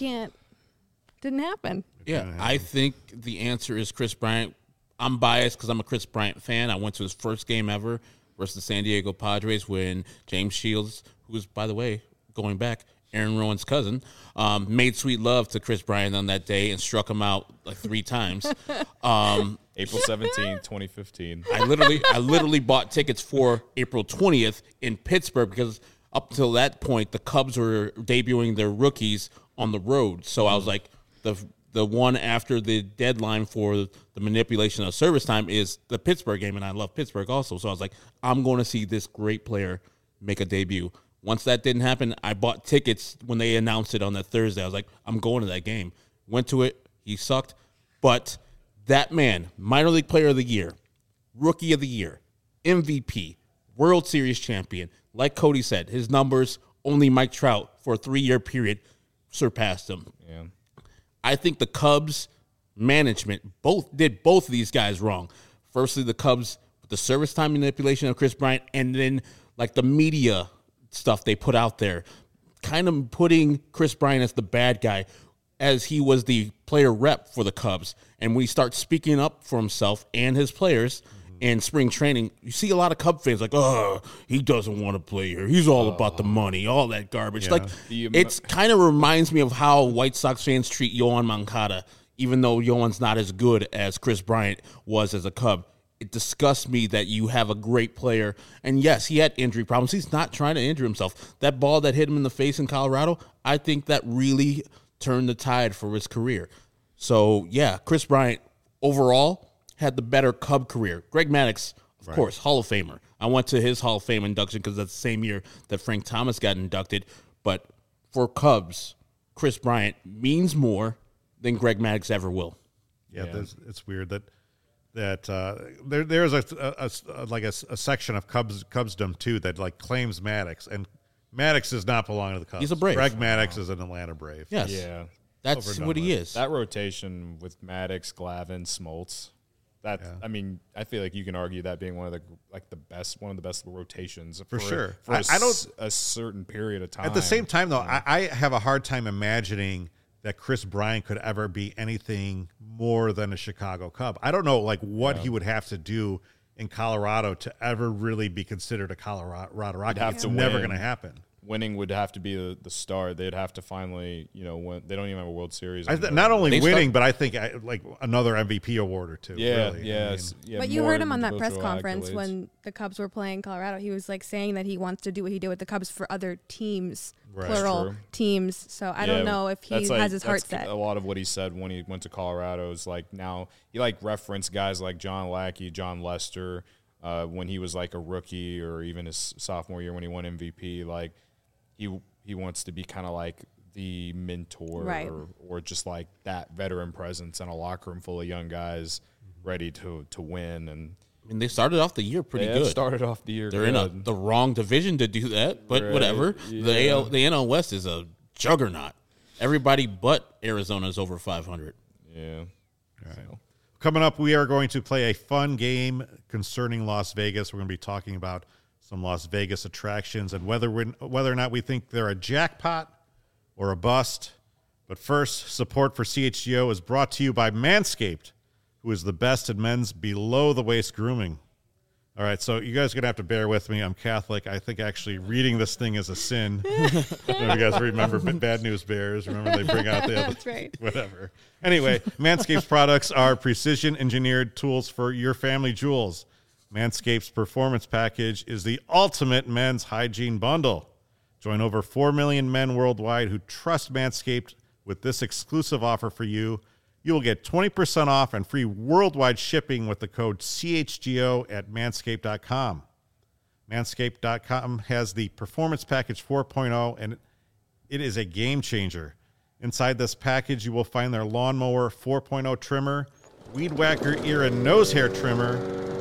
didn't happen. Yeah, I think the answer is Chris Bryant. I'm biased because I'm a Chris Bryant fan. I went to his first game ever versus the San Diego Padres when James Shields, who's, by the way, going back, Aaron Rowan's cousin, made sweet love to Chris Bryant on that day and struck him out 3 times. April 17, 2015. I literally bought tickets for April 20th in Pittsburgh because up until that point, the Cubs were debuting their rookies on the road. So I was like, the one after the deadline for the manipulation of service time is the Pittsburgh game, and I love Pittsburgh also. So I was like, I'm going to see this great player make a debut. Once that didn't happen, I bought tickets when they announced it on that Thursday. I was like, I'm going to that game. Went to it. He sucked. But that man, minor league player of the year, rookie of the year, MVP, World Series champion, like Cody said, his numbers, only Mike Trout for a 3-year period surpassed him. Yeah. I think the Cubs management did both of these guys wrong. Firstly, the Cubs with the service time manipulation of Chris Bryant, and then the media stuff they put out there, kind of putting Chris Bryant as the bad guy, as he was the player rep for the Cubs. And when he starts speaking up for himself and his players in spring training, you see a lot of Cub fans he doesn't want to play here. He's all about the money, all that garbage. Yeah. It's kind of reminds me of how White Sox fans treat Yoan Moncada, even though Yoan's not as good as Chris Bryant was as a Cub. it disgusts me that you have a great player. And yes, he had injury problems. He's not trying to injure himself. That ball that hit him in the face in Colorado, I think that really turned the tide for his career. So, yeah, Chris Bryant overall had the better Cub career. Greg Maddux, of course, Hall of Famer. I went to his Hall of Fame induction because that's the same year that Frank Thomas got inducted. But for Cubs, Chris Bryant means more than Greg Maddux ever will. Yeah. It's weird that there's a section of Cubsdom too that like claims Maddux, and Maddux does not belong to the Cubs. He's a Brave. Greg Maddux is an Atlanta Brave. Yes. Yeah. That's what he is. That rotation with Maddux, Glavine, Smoltz. I mean, I feel like you can argue that being one of the best rotations for sure. For a certain period of time. At the same time, though, I have a hard time imagining that Chris Bryant could ever be anything more than a Chicago Cub. I don't know, like what he would have to do in Colorado to ever really be considered a Colorado Rocky. It's never going to happen. Winning would have to be the star. They'd have to finally, win. They don't even have a World Series. Not only winning, but I think like another MVP award or two. Yeah, really. yeah, But you heard him on that press conference when the Cubs were playing Colorado. He was like saying that he wants to do what he did with the Cubs for other teams, plural teams. So I don't know if he has his heart set. A lot of what he said when he went to Colorado is like now he referenced guys like John Lackey, John Lester, when he was like a rookie or even his sophomore year when he won MVP. Like he wants to be kind of like the mentor or just like that veteran presence in a locker room full of young guys ready to win. And I mean, they started off the year pretty good. Started off the year They're good. in the wrong division to do that, but whatever. Yeah. The NL West is a juggernaut. Everybody but Arizona is over 500. Yeah. All right. So. Coming up, we are going to play a fun game concerning Las Vegas. We're going to be talking about some Las Vegas attractions and whether or not we think they're a jackpot or a bust. But first, support for CHGO is brought to you by Manscaped, who is the best in men's below-the-waist grooming. All right, so you guys are going to have to bear with me. I'm Catholic. I think actually reading this thing is a sin. I don't know if you guys remember Bad News Bears. Remember they bring out the That's right. Whatever. Anyway, Manscaped's products are precision-engineered tools for your family jewels. Manscaped's Performance Package is the ultimate men's hygiene bundle. Join over 4 million men worldwide who trust Manscaped with this exclusive offer for you. You will get 20% off and free worldwide shipping with the code CHGO at manscaped.com. Manscaped.com has the Performance Package 4.0, and it is a game changer. Inside this package, you will find their Lawnmower 4.0 trimmer, Weed Whacker ear and nose hair trimmer,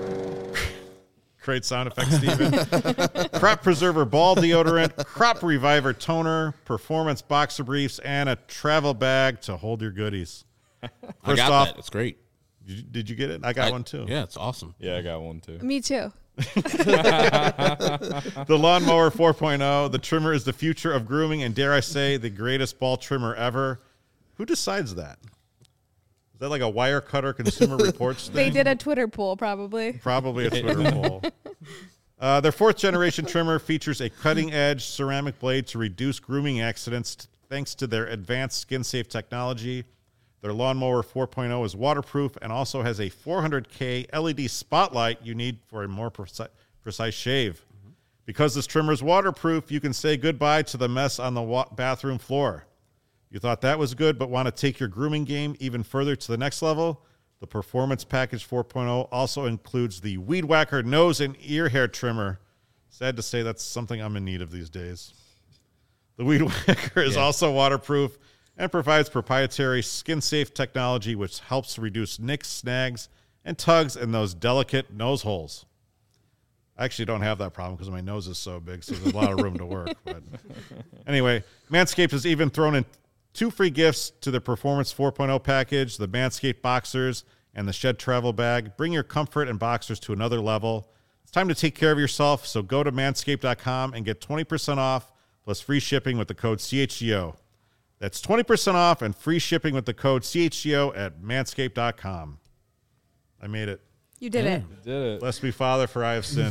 great sound effect, Steven. Crop Preserver ball deodorant, Crop Reviver toner, Performance boxer briefs, and a travel bag to hold your goodies. I got that. It's great. Did you get it? I got one too. Yeah, it's awesome. Yeah, I got one too. Me too. The Lawnmower 4.0, the trimmer is the future of grooming, and dare I say, the greatest ball trimmer ever. Who decides that? Is that like a wire cutter Consumer Reports thing? They did a Twitter poll, probably. Probably a Twitter poll. Their fourth generation trimmer features a cutting edge ceramic blade to reduce grooming accidents thanks to their advanced skin safe technology. Their Lawnmower 4.0 is waterproof and also has a 400K LED spotlight you need for a more precise shave. Because this trimmer is waterproof, you can say goodbye to the mess on the bathroom floor. You thought that was good, but want to take your grooming game even further to the next level? The Performance Package 4.0 also includes the Weed Whacker nose and ear hair trimmer. Sad to say that's something I'm in need of these days. The Weed Whacker is also waterproof and provides proprietary skin-safe technology which helps reduce nicks, snags, and tugs in those delicate nose holes. I actually don't have that problem because my nose is so big, so there's a lot of room to work. But anyway, Manscaped has even thrown in 2 free gifts to the Performance 4.0 package, the Manscaped Boxers and the Shed Travel Bag. Bring your comfort and boxers to another level. It's time to take care of yourself, so go to manscaped.com and get 20% off plus free shipping with the code CHGO. That's 20% off and free shipping with the code CHGO at manscaped.com. I made it. You did it. You did it. Bless me, Father, for I have sinned.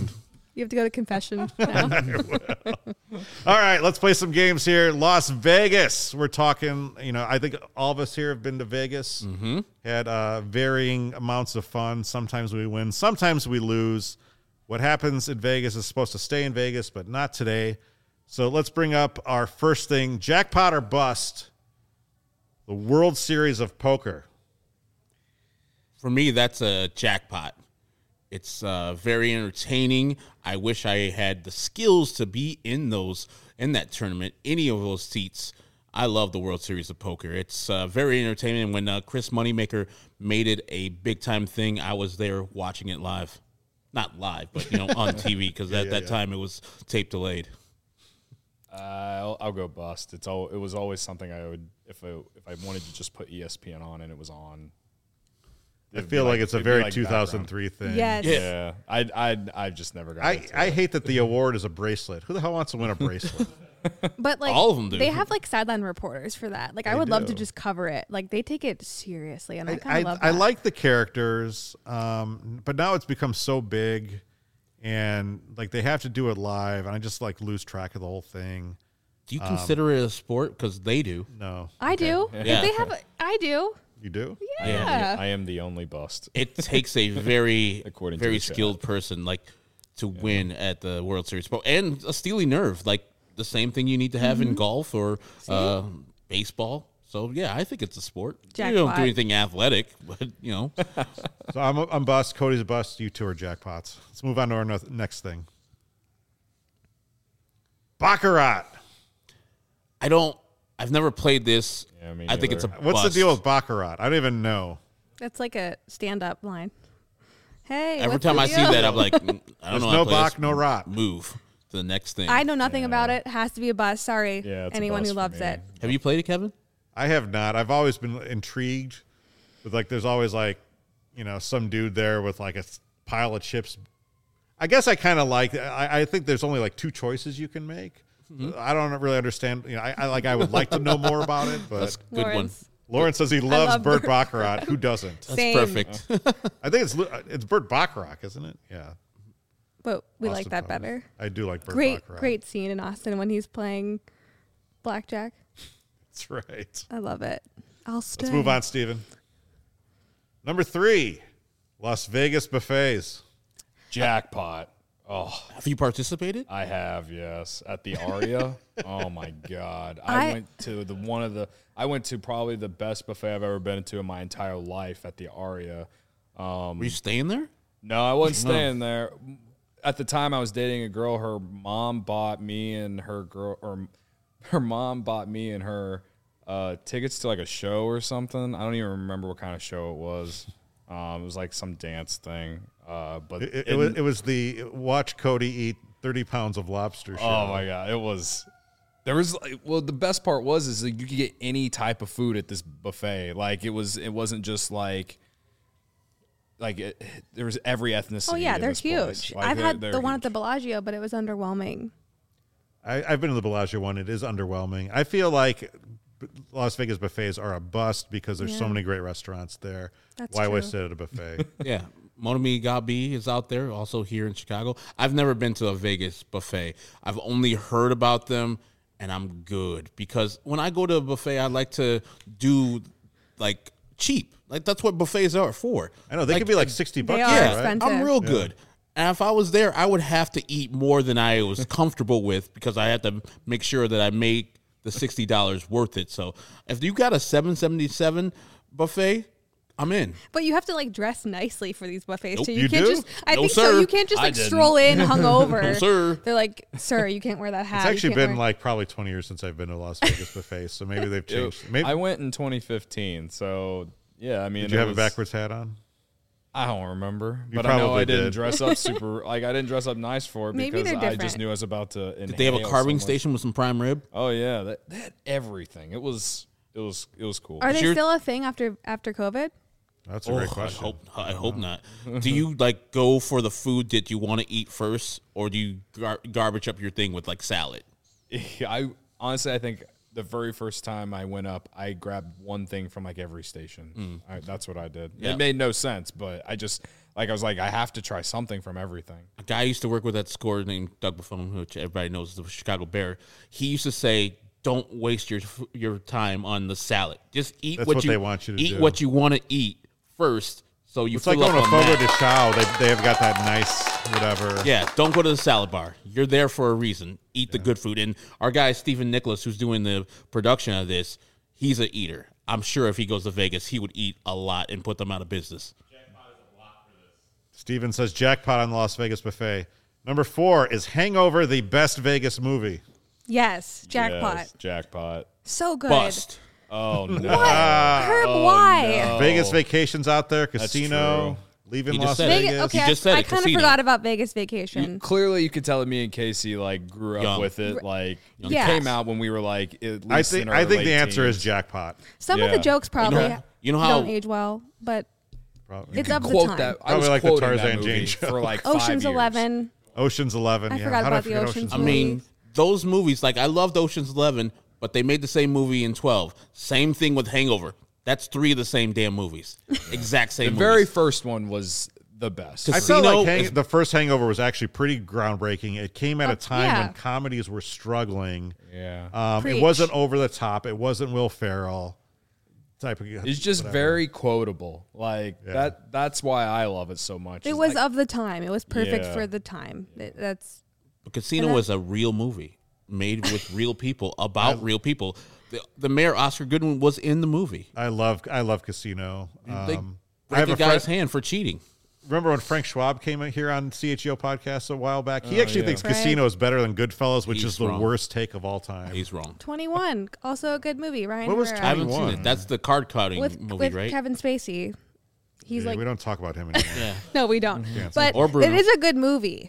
You have to go to confession now. All right, let's play some games here. Las Vegas. We're talking, I think all of us here have been to Vegas. Mm-hmm. Had varying amounts of fun. Sometimes we win, sometimes we lose. What happens in Vegas is supposed to stay in Vegas, but not today. So let's bring up our first thing, jackpot or bust, the World Series of Poker. For me, that's a jackpot. It's very entertaining. I wish I had the skills to be in that tournament, any of those seats. I love the World Series of Poker. It's very entertaining. When Chris Moneymaker made it a big-time thing, I was there watching it live. Not live, but on TV, because at that time it was tape delayed. I'll go bust. It was always something I would, if I wanted to just put ESPN on and it was on. I feel like it's a very 2003 thing. Yes. Yeah. I just never got into I it. hate that the award is a bracelet. Who the hell wants to win a bracelet? But like All of them do. They have like sideline reporters for that. Like I would love to just cover it. Like they take it seriously, and I kind of love that. I like the characters, but now it's become so big, and like they have to do it live, and I just like lose track of the whole thing. Do you consider it a sport? Because they do. No, I do. Yeah. If they have, I do. you do. Yeah. I am the only bust. It takes a very, According to very the chat. skilled person to win at the World Series, and a steely nerve, like the same thing you need to have in golf or baseball. So yeah, I think it's a sport. You don't Jackpot. do anything athletic, but So I'm bust. Cody's a bust. You two are jackpots. Let's move on to our next thing. Baccarat. I've never played this. Yeah, me I think it's a neither. What's bust. the deal with baccarat? I don't even know. That's like a stand-up line. Hey, Every what's time the I see deal? that, I'm like, I don't There's know. how to no play bac, this. no rot. Move to the next thing. I know nothing about it. Has to be a bust. Sorry, Yeah, it's a anyone bust who for loves me. it. Have you played it, Kevin? I have not. I've always been intrigued with like. There's always like, some dude there with like a pile of chips. I guess I kind of like. I think there's only like two choices you can make. I don't really understand. I would like to know more about it, but That's a good Lawrence. Lauren says he loves love Burt Burt Baccarat. Who doesn't? That's Same. perfect. I think it's Burt Bacharach, isn't it? Yeah. But we like Austin that Powers. better. I do like Burt Great, Bacharach. great scene in Austin when he's playing blackjack. That's right. I love it. I'll stay. Let's move on, Steven. Number 3, Las Vegas buffets. Jackpot. Oh, Have you participated? I have, yes. At the Aria. Oh my God. I I went to probably the best buffet I've ever been to in my entire life at the Aria. Were you staying there? No, I wasn't staying there. At the time I was dating a girl, her mom bought me and her tickets to like a show or something. I don't even remember what kind of show it was. It was like some dance thing. But It was the watch Cody eat 30 pounds of lobster show. oh my God, the best part is that you could get any type of food at this buffet. Like it wasn't just like there was every ethnicity. Oh yeah, in they're this place. huge. Like, I've had they're the one at huge. the Bellagio, but it was underwhelming. I've been to the Bellagio one. It is underwhelming. I feel like Las Vegas buffets are a bust because there's so Yeah. many great restaurants there. That's Why true. waste it at a buffet? Yeah. Monomi Gabi is out there, also here in Chicago. I've never been to a Vegas buffet. I've only heard about them, and I'm good. Because when I go to a buffet, I like to do, like, cheap. Like, that's what buffets are for. I know. They could be like $60 They here, are right? expensive. I'm real good. And if I was there, I would have to eat more than I was comfortable with because I had to make sure that I made the $60 worth it. So if you got a $7.77 buffet, I'm in. But you have to like dress nicely for these buffets Nope. too. You can't do? just I No, think sir. so. You can't just I like didn't. stroll in hungover. No, sir. They're like, sir, you can't wear that hat. It's You actually can't been wear-" like probably 20 years since I've been to Las Vegas buffet, so maybe they've changed. Maybe I went in 2015, so yeah. I mean, did you it have a was- backwards hat on? I don't remember, You but I know probably I didn't did. dress up super. Like I didn't dress up nice for it Maybe because they're I different. just knew I was about to. Did they have a inhale carving so much. station with some prime rib? Oh yeah, they had everything. It was cool. Are they You're- still a thing after COVID? That's a great question. I hope not. Do you like go for the food that you want to eat first, or do you garbage up your thing with like salad? I honestly, I think the very first time I went up, I grabbed one thing from like every station. That's what I did. Yeah. It made no sense, but I just I was like, I have to try something from everything. A guy I used to work with at Score named Doug Buffon, which everybody knows is the Chicago Bear. He used to say, "Don't waste your time on the salad. Just eat That's what what you they want you to eat do. what you want to eat first, so you It's fill like up going to on Fogo de that." Chao. They have got that nice whatever. Yeah, don't go to the salad bar. You're there for a reason. Eat the good food. And our guy Stephen Nicholas, who's doing the production of this, he's an eater. I'm sure if he goes to Vegas, he would eat a lot and put them out of business. Steven says jackpot on the Las Vegas buffet. Number 4 is Hangover, the best Vegas movie. Yes, jackpot. Yes, jackpot. So good. Bust. Oh no. What? Herb, why? Vegas vacations out there, That's casino, true. leaving He just Las said it. Vegas. Vegas, okay, You just said I it, kind of casino. forgot about Vegas Vacation. Clearly, you could tell that me and Casey like grew up Young. with it. Like it Yes. came out when we were like at least I think in our I think late the answer is teens. jackpot. Some of the Yeah. jokes probably You know how- don't age well, but Probably. it's of the Quote time. that. I Probably was like the quoting Tarzan that movie Jane show. for like 5 Ocean's years. 11. Ocean's 11. I yeah. forgot How did about the forget Ocean's I movie. mean, those movies, like I loved Ocean's 11, but they made the same movie in 12. Same thing with Hangover. That's 3 of the same damn movies. Exact same The movies. very first one was the best. I felt Casino like is- the first Hangover was actually pretty groundbreaking. It came at a time yeah. when comedies were struggling. Yeah. It Preach. wasn't over the top. It wasn't Will Ferrell type of. It's just whatever. very quotable. Like Yeah. that's why I love it so much. It It's was like, of the time. It was perfect Yeah. for the time. That's But Casino was a real movie made with real people about real people. The mayor, Oscar Goodwin, was in the movie. I love Casino. They I break have a a guy's friend. hand for cheating. Remember when Frank Schwab came in here on CHGO podcast a while back? He actually yeah. thinks Right. Casino is better than Goodfellas, which He's is the wrong. worst take of all time. He's wrong. 21. Also a good movie. Ryan What was Herrera. I haven't seen 21. it. That's the card cutting with movie, right? Kevin Spacey. He's Yeah, like, we don't talk about him anymore. Yeah. no, we don't. But Or Bruno. it is a good movie.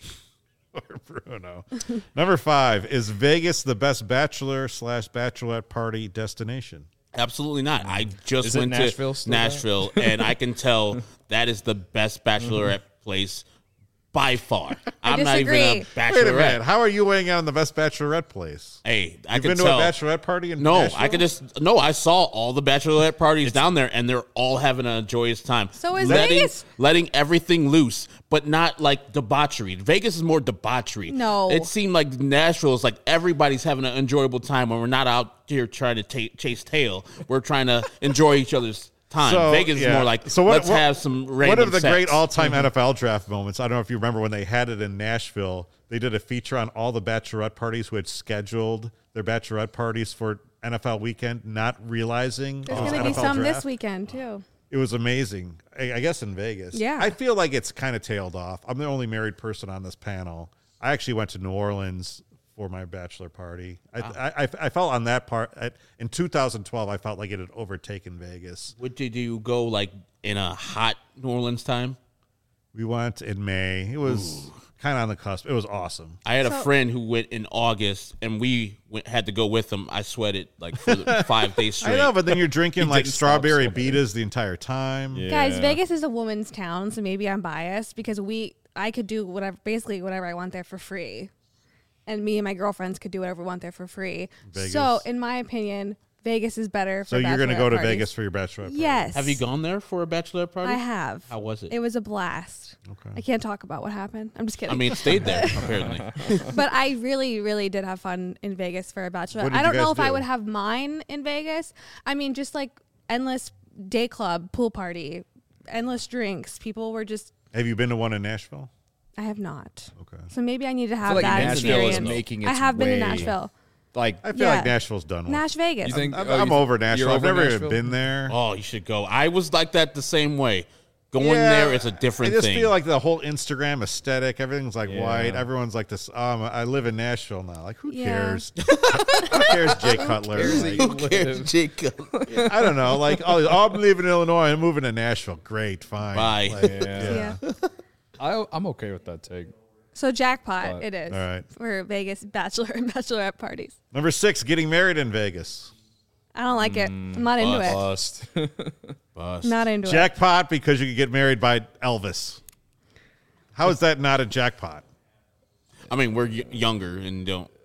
Or Bruno. Number 5 is Vegas the best bachelor/bachelorette party destination? Absolutely not. I just Is it went Nashville to still there? Nashville, and I can tell that is the best bachelorette place by far. I'm not even a disagree. bachelorette. Wait a minute. How are you weighing out on the best bachelorette place? Hey, I You've can been to tell. a bachelorette party in No, Nashville? I could just no. I saw all the bachelorette parties down there, and they're all having a joyous time. So is letting, Vegas. letting everything loose, but not like debauchery. Vegas is more debauchery. No. It seemed like Nashville is like everybody's having an enjoyable time when we're not out here trying to chase tail. We're trying to enjoy each other's time. So, Vegas yeah. is more like So what- let's what- have some random One of the sex. great all-time NFL draft moments. I don't know if you remember when they had it in Nashville. They did a feature on all the bachelorette parties who had scheduled their bachelorette parties for NFL weekend, not realizing There's it was going to be NFL some draft. this weekend, too. It was amazing. I guess in Vegas. Yeah. I feel like it's kind of tailed off. I'm the only married person on this panel. I actually went to New Orleans for my bachelor party. I felt on that part in 2012. I felt like it had overtaken Vegas. Did you go like in a hot New Orleans time? We went in May. It was kind of on the cusp. It was awesome. I had a So- friend who went in August, and had to go with him. I sweated like for 5 days straight. I know, but then you're drinking like didn't stop strawberry sweating. betas the entire time. Yeah. Guys, Vegas is a woman's town, so maybe I'm biased because I could do basically whatever I want there for free. And me and my girlfriends could do whatever we want there for free. Vegas. So, in my opinion, Vegas is better for So you're going to go to bachelorette parties. Vegas for your bachelorette party? Yes. Have you gone there for a bachelor party? I have. How was it? It was a blast. Okay. I can't talk about what happened. I'm just kidding. I mean, it stayed there apparently. but I really, really did have fun in Vegas for a bachelor. What did I don't you know guys if I do? would have mine in Vegas. I mean, just like endless day club, pool party, endless drinks. People were just. Have you been to one in Nashville? I have not. Okay. So maybe I need to I have feel like that Nashville experience. is making its I have been to way- Nashville. Like I feel Yeah. like Nashville's done one. Nash Vegas. you think I'm over Nashville. you're I've over never Nashville? even been there. Oh, you should go. I was like that the same way. Going Yeah, there is a different I just thing. feel like the whole Instagram aesthetic, everything's like Yeah. white. Everyone's like this. I live in Nashville now. Like, who Yeah. cares? Who cares, Jay Cutler? Like, Who cares, Jacob? I don't know. Like, I'm leaving Illinois. I'm moving to Nashville. Great, fine. Bye. Like, Yeah. Yeah. I'm okay with that take. So jackpot But- it is All right. for Vegas bachelor and bachelorette parties. Number 6, getting married in Vegas. I don't like it. I'm not into it. Bust. Bust. Not into it. Jackpot because you could get married by Elvis. How is that not a jackpot? I mean, we're younger and don't.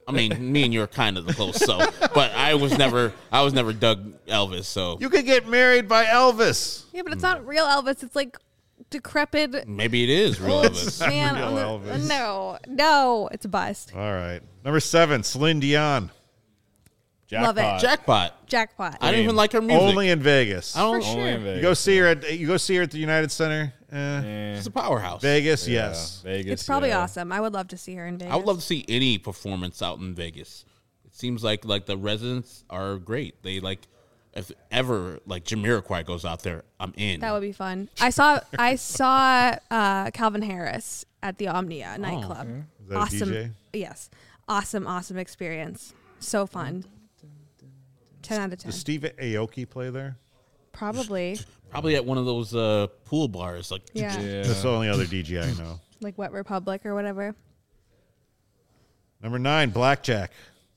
I mean, me and you are kind of the close, so. But I was never Doug Elvis, so. You could get married by Elvis. Yeah, but it's not real Elvis. It's like decrepit. Maybe it is real Elvis. Man, real Elvis. no, it's a bust. All right. Number 7, Celine Dion. Love it. Jackpot. Jackpot. I don't even like her music. Only in Vegas. I don't. For sure. Only in Vegas. You go see her at the United Center. She's a powerhouse. Vegas, Yeah, yes. Vegas. It's probably yeah. awesome. I would love to see her in Vegas. I would love to see any performance out in Vegas. It seems like the residents are great. They if ever Jamiroquai goes out there, I'm in. That would be fun. I saw Calvin Harris at the Omnia nightclub. Is that a Awesome. DJ? Yes. Awesome experience. So fun. 10 out of 10. Does Steve Aoki play there? Probably. Probably at one of those pool bars. Yeah. Yeah. That's the only other DJ I know. Like Wet Republic or whatever. Number 9, Blackjack.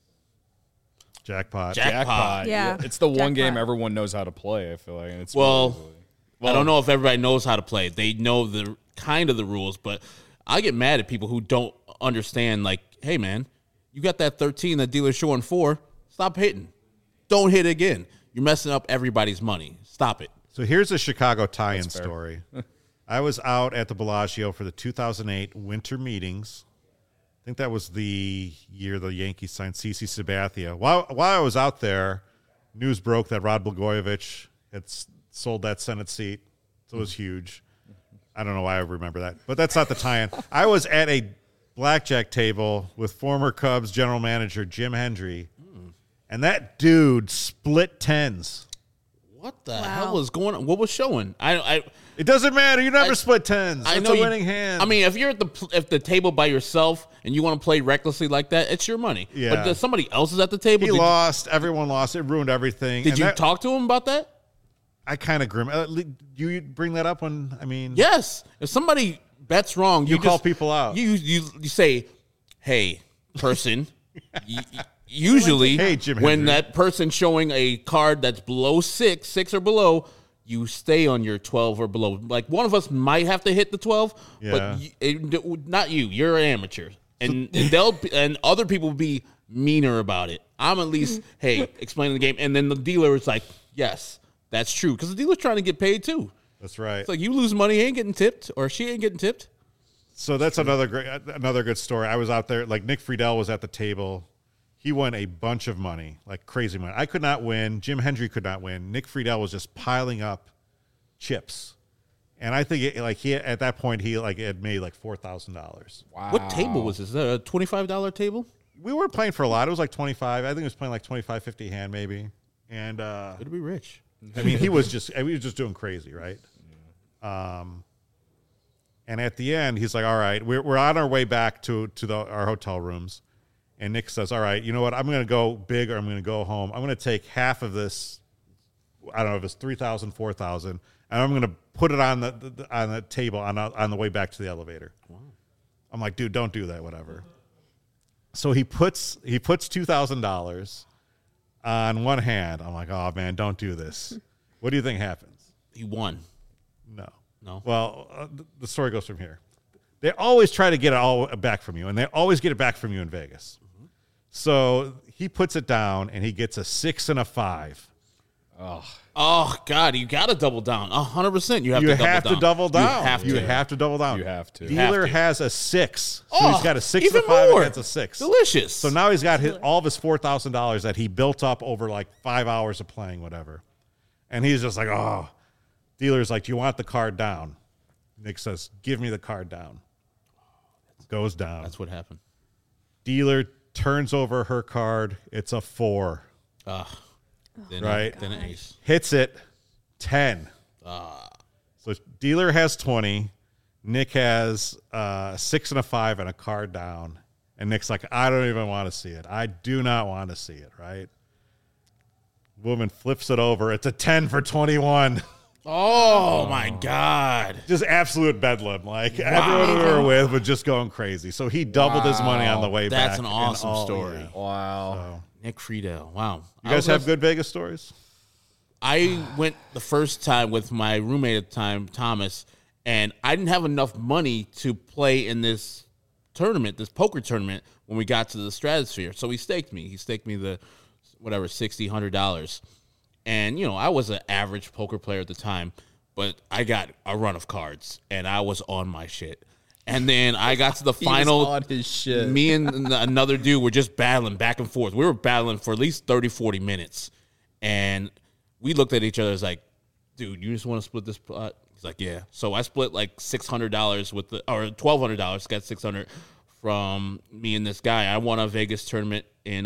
Jackpot. Jackpot. Yeah. It's the one game Jackpot. everyone knows how to play, I feel like. And it's Well, really- I don't know if everybody knows how to play. They know the rules, but I get mad at people who don't understand. Hey man, you got that 13 that dealer's showing 4. Stop hitting. Don't hit again. You're messing up everybody's money. Stop it. So here's a Chicago tie-in That's fair. story. I was out at the Bellagio for the 2008 winter meetings. I think that was the year the Yankees signed CeCe Sabathia. While I was out there, news broke that Rod Blagojevich had sold that Senate seat. So it was huge. I don't know why I remember that, but that's not the tie-in. I was at a blackjack table with former Cubs general manager Jim Hendry, and that dude split tens. What the Wow. hell was going on? What was showing? It doesn't matter. You never split tens. I It's know a you- winning hand. I mean, if you're at the table by yourself and you want to play recklessly like that, it's your money. Yeah. But if somebody else is at the table, he lost. Everyone lost. It ruined everything. Did And you that- talk to him about that? I kind of grim. You bring that up when I mean, Yes. If somebody bets wrong, You call just- people out. You say, "Hey, person." Usually, Hey, Jim when Hendry. that person's showing a card that's below 6 or below, you stay on your 12 or below. Like one of us might have to hit the 12, Yeah. but not you. You're an amateur, and and other people will be meaner about it. I'm at least, hey, explaining the game, and then the dealer is like, yes, that's true, because the dealer's trying to get paid too. that's right. It's like you lose money, he ain't getting tipped, or she ain't getting tipped. So that's another good story. I was out there. Like Nick Friedel was at the table. He won a bunch of money, like crazy money. I could not win. Jim Hendry could not win. Nick Friedel was just piling up chips, and I think at that point he had made like $4,000. Wow. What table was this? Is that a $25 table? We were playing for a lot. It was like 25. I think it was playing like 25, 50 hand maybe. And It'd be rich. I mean, he was just doing crazy, right? And at the end, he's like, "All right, we're on our way back to our hotel rooms." And Nick says, "All right, you know what? I'm going to go big, or I'm going to go home. I'm going to take half of this. I don't know if it's 3,000, 4,000, and I'm going to put it on the table on the way back to the elevator." Wow. I'm like, "Dude, don't do that. Whatever." So he puts $2,000 on one hand. I'm like, "Oh man, don't do this." What do you think happens? He won. No. No. Well, the story goes from here. They always try to get it all back from you, and they always get it back from you in Vegas. Mm-hmm. So he puts it down, and he gets a 6 and a 5. Oh God, you got to double down. 100%. You have You to have to double down. You have to. You have to double down. You have to. Dealer Have to. has a 6, so Oh, he's got a 6 and even a 5 more. against a 6. Delicious. So now he's got all of his $4,000 that he built up over like 5 hours of playing, whatever. And he's just like, "Oh." Dealer's like, "Do you want the card down?" Nick says, "Give me the card down." Goes down. That's what happened. Dealer turns over her card. It's a 4. Then Right. Then an ace. Hits it 10. So dealer has 20. Nick has 6 and a 5 and a card down. And Nick's like, "I don't even want to see it. I do not want to see it," right? Woman flips it over. It's a 10 for 21. Oh my God. Just absolute bedlam. Like everyone we were with was just going crazy. So he doubled his money on the way back. That's an and awesome story. yeah. Wow. Nick Friedel. Wow. You guys have good Vegas stories? I went the first time with my roommate at the time, Thomas, and I didn't have enough money to play in this tournament, this poker tournament, when we got to the Stratosphere. So he staked me. He staked me the whatever $60, $100, and I was an average poker player at the time, but I got a run of cards, and I was on my shit. And then I got to the final. on his shit. Me and another dude were just battling back and forth. We were battling for at least 30, 40 minutes, and we looked at each other as like, dude, you just want to split this pot? He's like, yeah. So I split like $600 or $1,200. Got $600 from me and this guy. I won a Vegas tournament in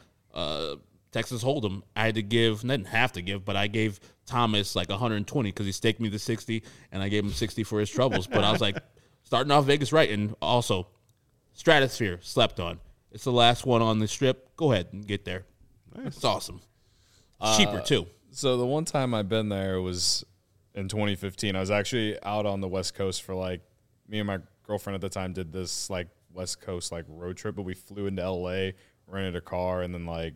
Texas Hold'em. I had to give, didn't have to give, but I gave Thomas like 120 because he staked me the 60, and I gave him 60 for his troubles. But I was like, starting off Vegas right, and also Stratosphere slept on. It's the last one on the Strip. Go ahead and get there. Nice. It's awesome. Cheaper too. So the one time I've been there was in 2015. I was actually out on the West Coast for like, me and my girlfriend at the time did this like West Coast like road trip, but we flew into LA, rented a car, and then like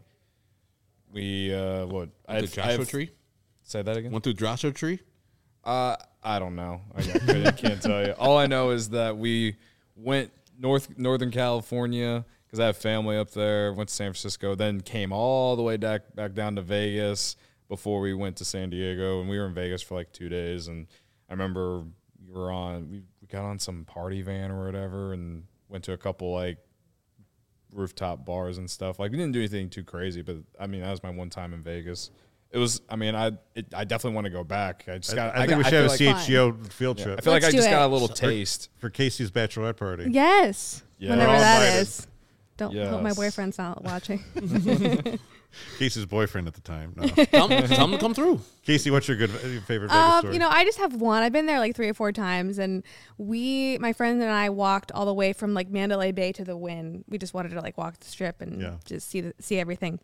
we The Joshua Tree? Say that again? Went through Joshua Tree? I don't know. I can't tell you. All I know is that we went Northern California because I have family up there, went to San Francisco, then came all the way back down to Vegas before we went to San Diego, and we were in Vegas for like 2 days. And I remember we got on some party van or whatever and went to a couple like rooftop bars and stuff. Like we didn't do anything too crazy, but I mean that was my one time in Vegas. It was. I mean, I definitely want to go back. I think we should have a CHGO field trip. I feel like I Let's just do got it. a little taste for Casey's bachelorette party. Yes. Yeah. Whenever We're all that invited. is. Don't hope my Yes. boyfriend's not watching. Casey's boyfriend at the time. No. Tell him to come through. Casey, what's your favorite Vegas story? I just have one. I've been there like 3 or 4 times, and my friend and I walked all the way from like Mandalay Bay to the Wynn. We just wanted to like walk the Strip and just see everything.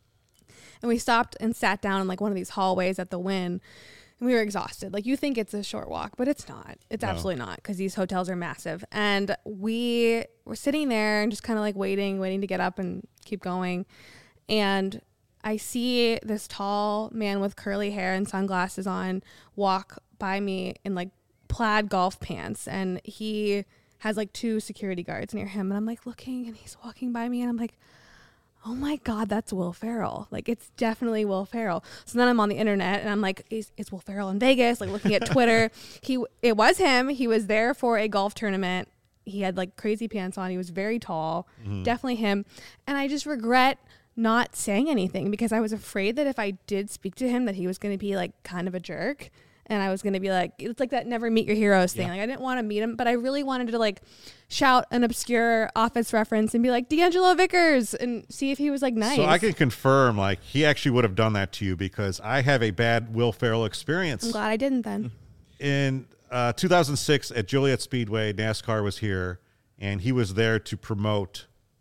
And we stopped and sat down in like one of these hallways at the Wynn, and we were exhausted. Like you think it's a short walk, but it's not. It's absolutely not, because these hotels are massive. And we were sitting there and just kind of like waiting to get up and keep going. And I see this tall man with curly hair and sunglasses on walk by me in like plaid golf pants. And he has like 2 security guards near him. And I'm like looking, and he's walking by me, and I'm like, oh my God, that's Will Ferrell. Like, it's definitely Will Ferrell. So then I'm on the internet and I'm like, is Will Ferrell in Vegas? Like looking at Twitter. It was him. He was there for a golf tournament. He had like crazy pants on. He was very tall. Definitely him. And I just regret not saying anything, because I was afraid that if I did speak to him that he was going to be like kind of a jerk. And I was going to be like, it's like that never meet your heroes thing. Like I didn't want to meet him, but I really wanted to like shout an obscure Office reference and be like, D'Angelo Vickers, and see if he was like nice. So I can confirm, like, he actually would have done that to you, because I have a bad Will Ferrell experience. I'm glad I didn't then. In 2006 at Joliet Speedway, NASCAR was here, and he was there to promote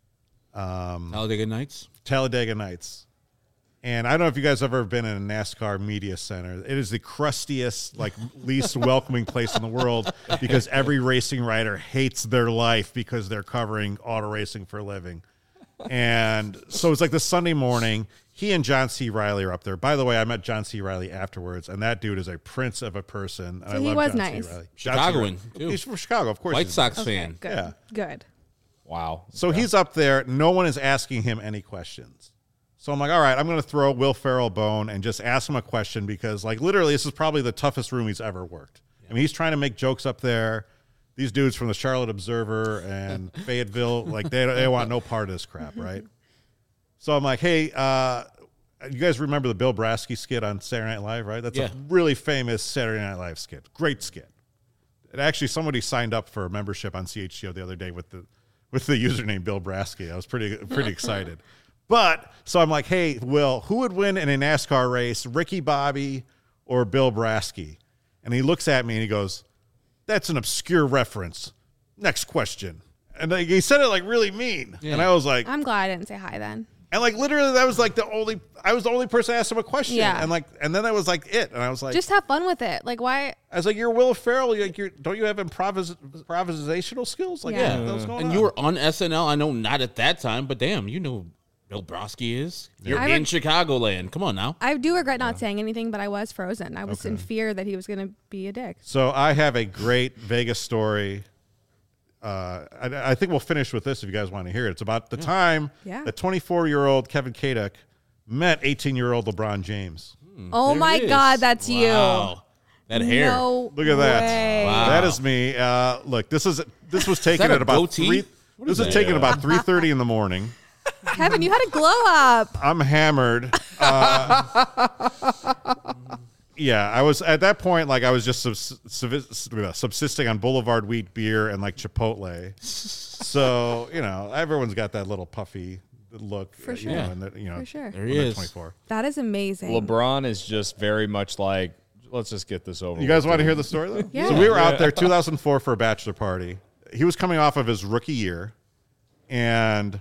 Talladega Nights. Nights. And I don't know if you guys have ever been in a NASCAR media center. It is the crustiest, like least welcoming place in the world, because every racing writer hates their life because they're covering auto racing for a living. And so it's like this Sunday morning, he and John C. Reilly are up there. By the way, I met John C. Reilly afterwards, and that dude is a prince of a person. And So I he love was John nice. C. Reilly. Chicagoan, too. He's from Chicago, of course. White he's Sox Okay, fan. good. Yeah. Good. Wow. So he's up there. No one is asking him any questions. So I'm like, all right, I'm going to throw Will Ferrell a bone and just ask him a question, because, like, literally, this is probably the toughest room he's ever worked. I mean, he's trying to make jokes up there. These dudes from the Charlotte Observer and Fayetteville, like, they want no part of this crap, right? So I'm like, hey, you guys remember the Bill Brasky skit on Saturday Night Live, right? That's a really famous Saturday Night Live skit. Great skit. And actually, somebody signed up for a membership on CHGO the other day with the username Bill Brasky. I was pretty excited. But so I'm like, hey, Will, who would win in a NASCAR race, Ricky Bobby or Bill Brasky? And he looks at me and he goes, that's an obscure reference. Next question. And like, he said it like really mean. Yeah. And I was like, I'm glad I didn't say hi then. And like literally that was like I was the only person to ask him a question. Yeah. And then that was like it. And I was like, just have fun with it. Like, why? I was like, you're Will Ferrell. Don't you have improvisational skills? Like, Yeah. what's going And on? you were on SNL. I know not at that time, but damn, you know Bill Brasky is. You're in Chicagoland. Come on now. I do regret not saying anything, but I was frozen. I was in fear that he was going to be a dick. So I have a great Vegas story. I think we'll finish with this if you guys want to hear it. It's about the time that 24-year-old Kevin Kadek met 18-year-old LeBron James. Oh There my it is. God, that's Wow. That hair. No Look at that. way. Wow. That is me. Look, this was taken that a at about goatee? 3. What This is was that? taken about 3:30 in the morning. Kevin, you had a glow up. I'm hammered. Yeah, I was at that point, like I was just subsisting on Boulevard Wheat beer and like Chipotle. So, everyone's got that little puffy look. For you sure. know, and that, For sure. There when he they're is. 24. That is amazing. LeBron is just very much like, let's just get this over You guys with. want to hear the story, though? Yeah. So we were out there 2004 for a bachelor party. He was coming off of his rookie year, and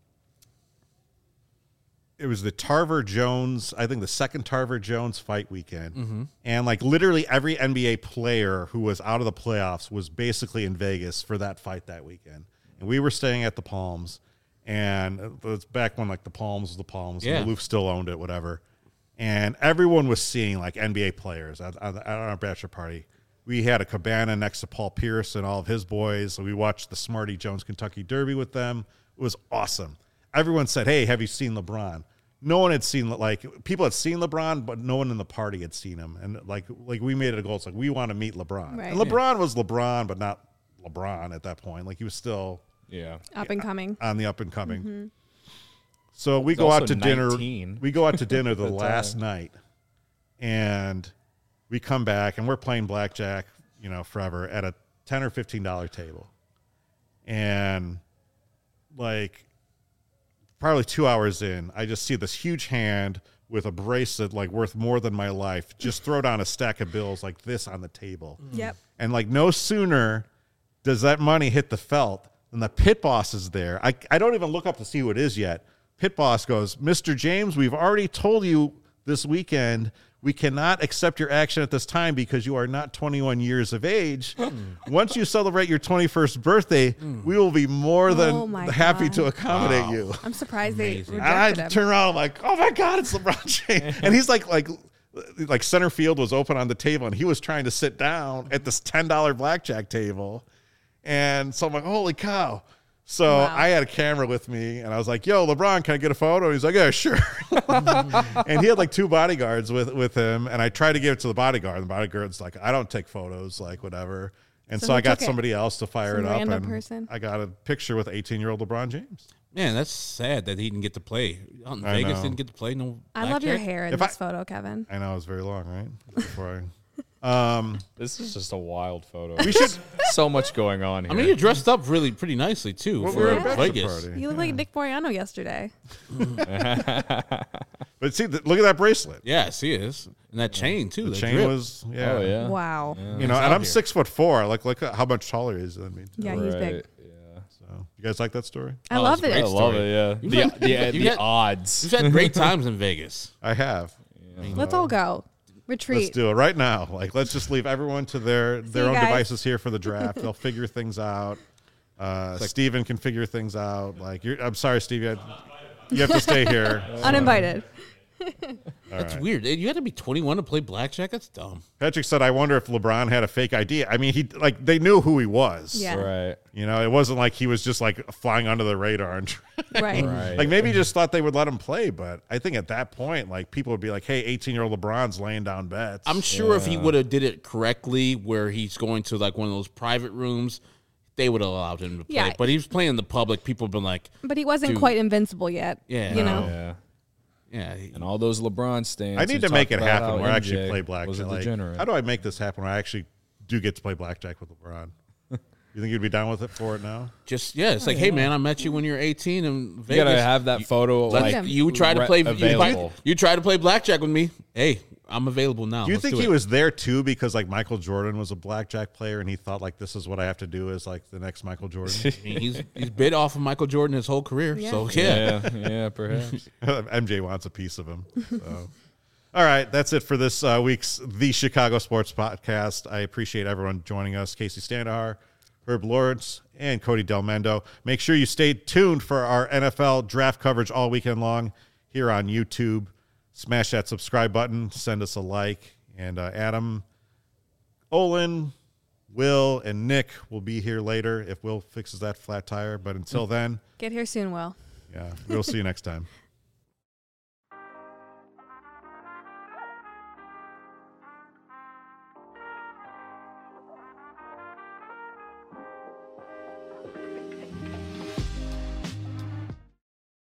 it was the Tarver Jones, I think the second Tarver Jones fight weekend. And like literally every NBA player who was out of the playoffs was basically in Vegas for that fight that weekend. And we were staying at the Palms, and it's back when like the Palms was the Palms, Yeah. and Maloof still owned it, whatever. And everyone was seeing like NBA players at our bachelor party. We had a cabana next to Paul Pierce and all of his boys. So we watched the Smarty Jones Kentucky Derby with them. It was awesome. Everyone said, "Hey, have you seen LeBron?" No one had seen, like, people had seen LeBron, but no one in the party had seen him. And like we made it a goal. It's like, we want to meet LeBron. Right. And LeBron was LeBron, but not LeBron at that point. Like he was still Yeah. Up and coming. on the up and coming. So we He's go out also to dinner. 19. We go out to dinner the At the last time. night, and we come back and we're playing blackjack, forever at a $10 or $15 table, and like probably 2 hours in, I just see this huge hand with a bracelet like worth more than my life just throw down a stack of bills like this on the table. Yep. And like no sooner does that money hit the felt than the pit boss is there. I don't even look up to see who it is yet. Pit boss goes, "Mr. James, we've already told you this weekend we cannot accept your action at this time because you are not 21 years of age. Once you celebrate your 21st birthday, we will be more than Oh my happy God. to accommodate you." I'm surprised they Amazing. And I rejected him. turn around, I'm like, "Oh my God, it's LeBron James!" And he's like center field was open on the table, and he was trying to sit down at this $10 blackjack table, and so I'm like, "Holy cow!" So Wow. I had a camera with me, and I was like, "Yo, LeBron, can I get a photo?" And he's like, "Yeah, sure." And he had like 2 bodyguards with him, and I tried to give it to the bodyguard, and the bodyguard's like, "I don't take photos, like whatever." And So so who I got took it? somebody else to fire Some it up, random and person? I got a picture with 18-year-old LeBron James. Man, that's sad that he didn't get to play. Out in I Vegas know. didn't get to play. No, I love your blackjack? hair in If this I- photo, Kevin. I know it was very long, right? Before This is just a wild photo. we should. So much going on here. I mean, you dressed up really pretty nicely too Well, for we were at a bachelor Vegas. party. You look like Nick Moriano yesterday. But see, look at that bracelet. Yes, he is, and that chain too. The that chain drip. was, yeah. Oh, yeah. Wow. You know, He's and out I'm here. 6'4". Like, look at how much taller he is than me. Too. Yeah, he's big. Right, yeah. So, you guys like that story? I Oh, love that's it. great. I love it, yeah. You've The, had- the, you've the had- odds. You've had great times in Vegas. I have. Let's all go. Let's Retreat. do it right now. Like, let's just leave everyone to their you own guys. devices here for the draft. They'll figure things out. Steven can figure things out. Like, I'm sorry, Steve. You have to stay here. Uninvited. That's weird. You had to be 21 to play blackjack. That's dumb. Patrick said, "I wonder if LeBron had a fake ID." I mean, they knew who he was. Yeah. Right. You know, it wasn't like he was just like flying under the radar and Right. Right. like maybe he just thought they would let him play. But I think at that point, like people would be like, "Hey, 18-year-old LeBron's laying down bets." I'm sure if he would have did it correctly, where he's going to like one of those private rooms, they would have allowed him to play. Yeah. But he was playing in the public. People have been like, But he wasn't Dude. quite invincible yet. Yeah. You No. know? Yeah. yeah, And all those LeBron stands. I need who to make talk it about happen how where I actually MJ play Was blackjack. a Like, degenerate. how do I make this happen where I actually do get to play blackjack with LeBron? You think you'd be down with it for it now? just it's like, hey man, I met you when you're 18 in Vegas. You gotta have that photo. Let's- Like you try to play. available. You try to play blackjack with me. Hey, I'm available now. Do you Let's think do he it. was there too because like Michael Jordan was a blackjack player and he thought like this is what I have to do as like the next Michael Jordan? I mean, he's bid off of Michael Jordan his whole career. Yeah. So yeah. Yeah, perhaps. MJ wants a piece of him. So. All right, that's it for this week's The Chicago Sports Podcast. I appreciate everyone joining us. Casey Standahar, Herb Lawrence, and Cody Delmendo. Make sure you stay tuned for our NFL draft coverage all weekend long here on YouTube. Smash that subscribe button. Send us a like. And Adam, Olin, Will and Nick will be here later if Will fixes that flat tire. But until then, Get here soon, Will. yeah, we'll see you next time.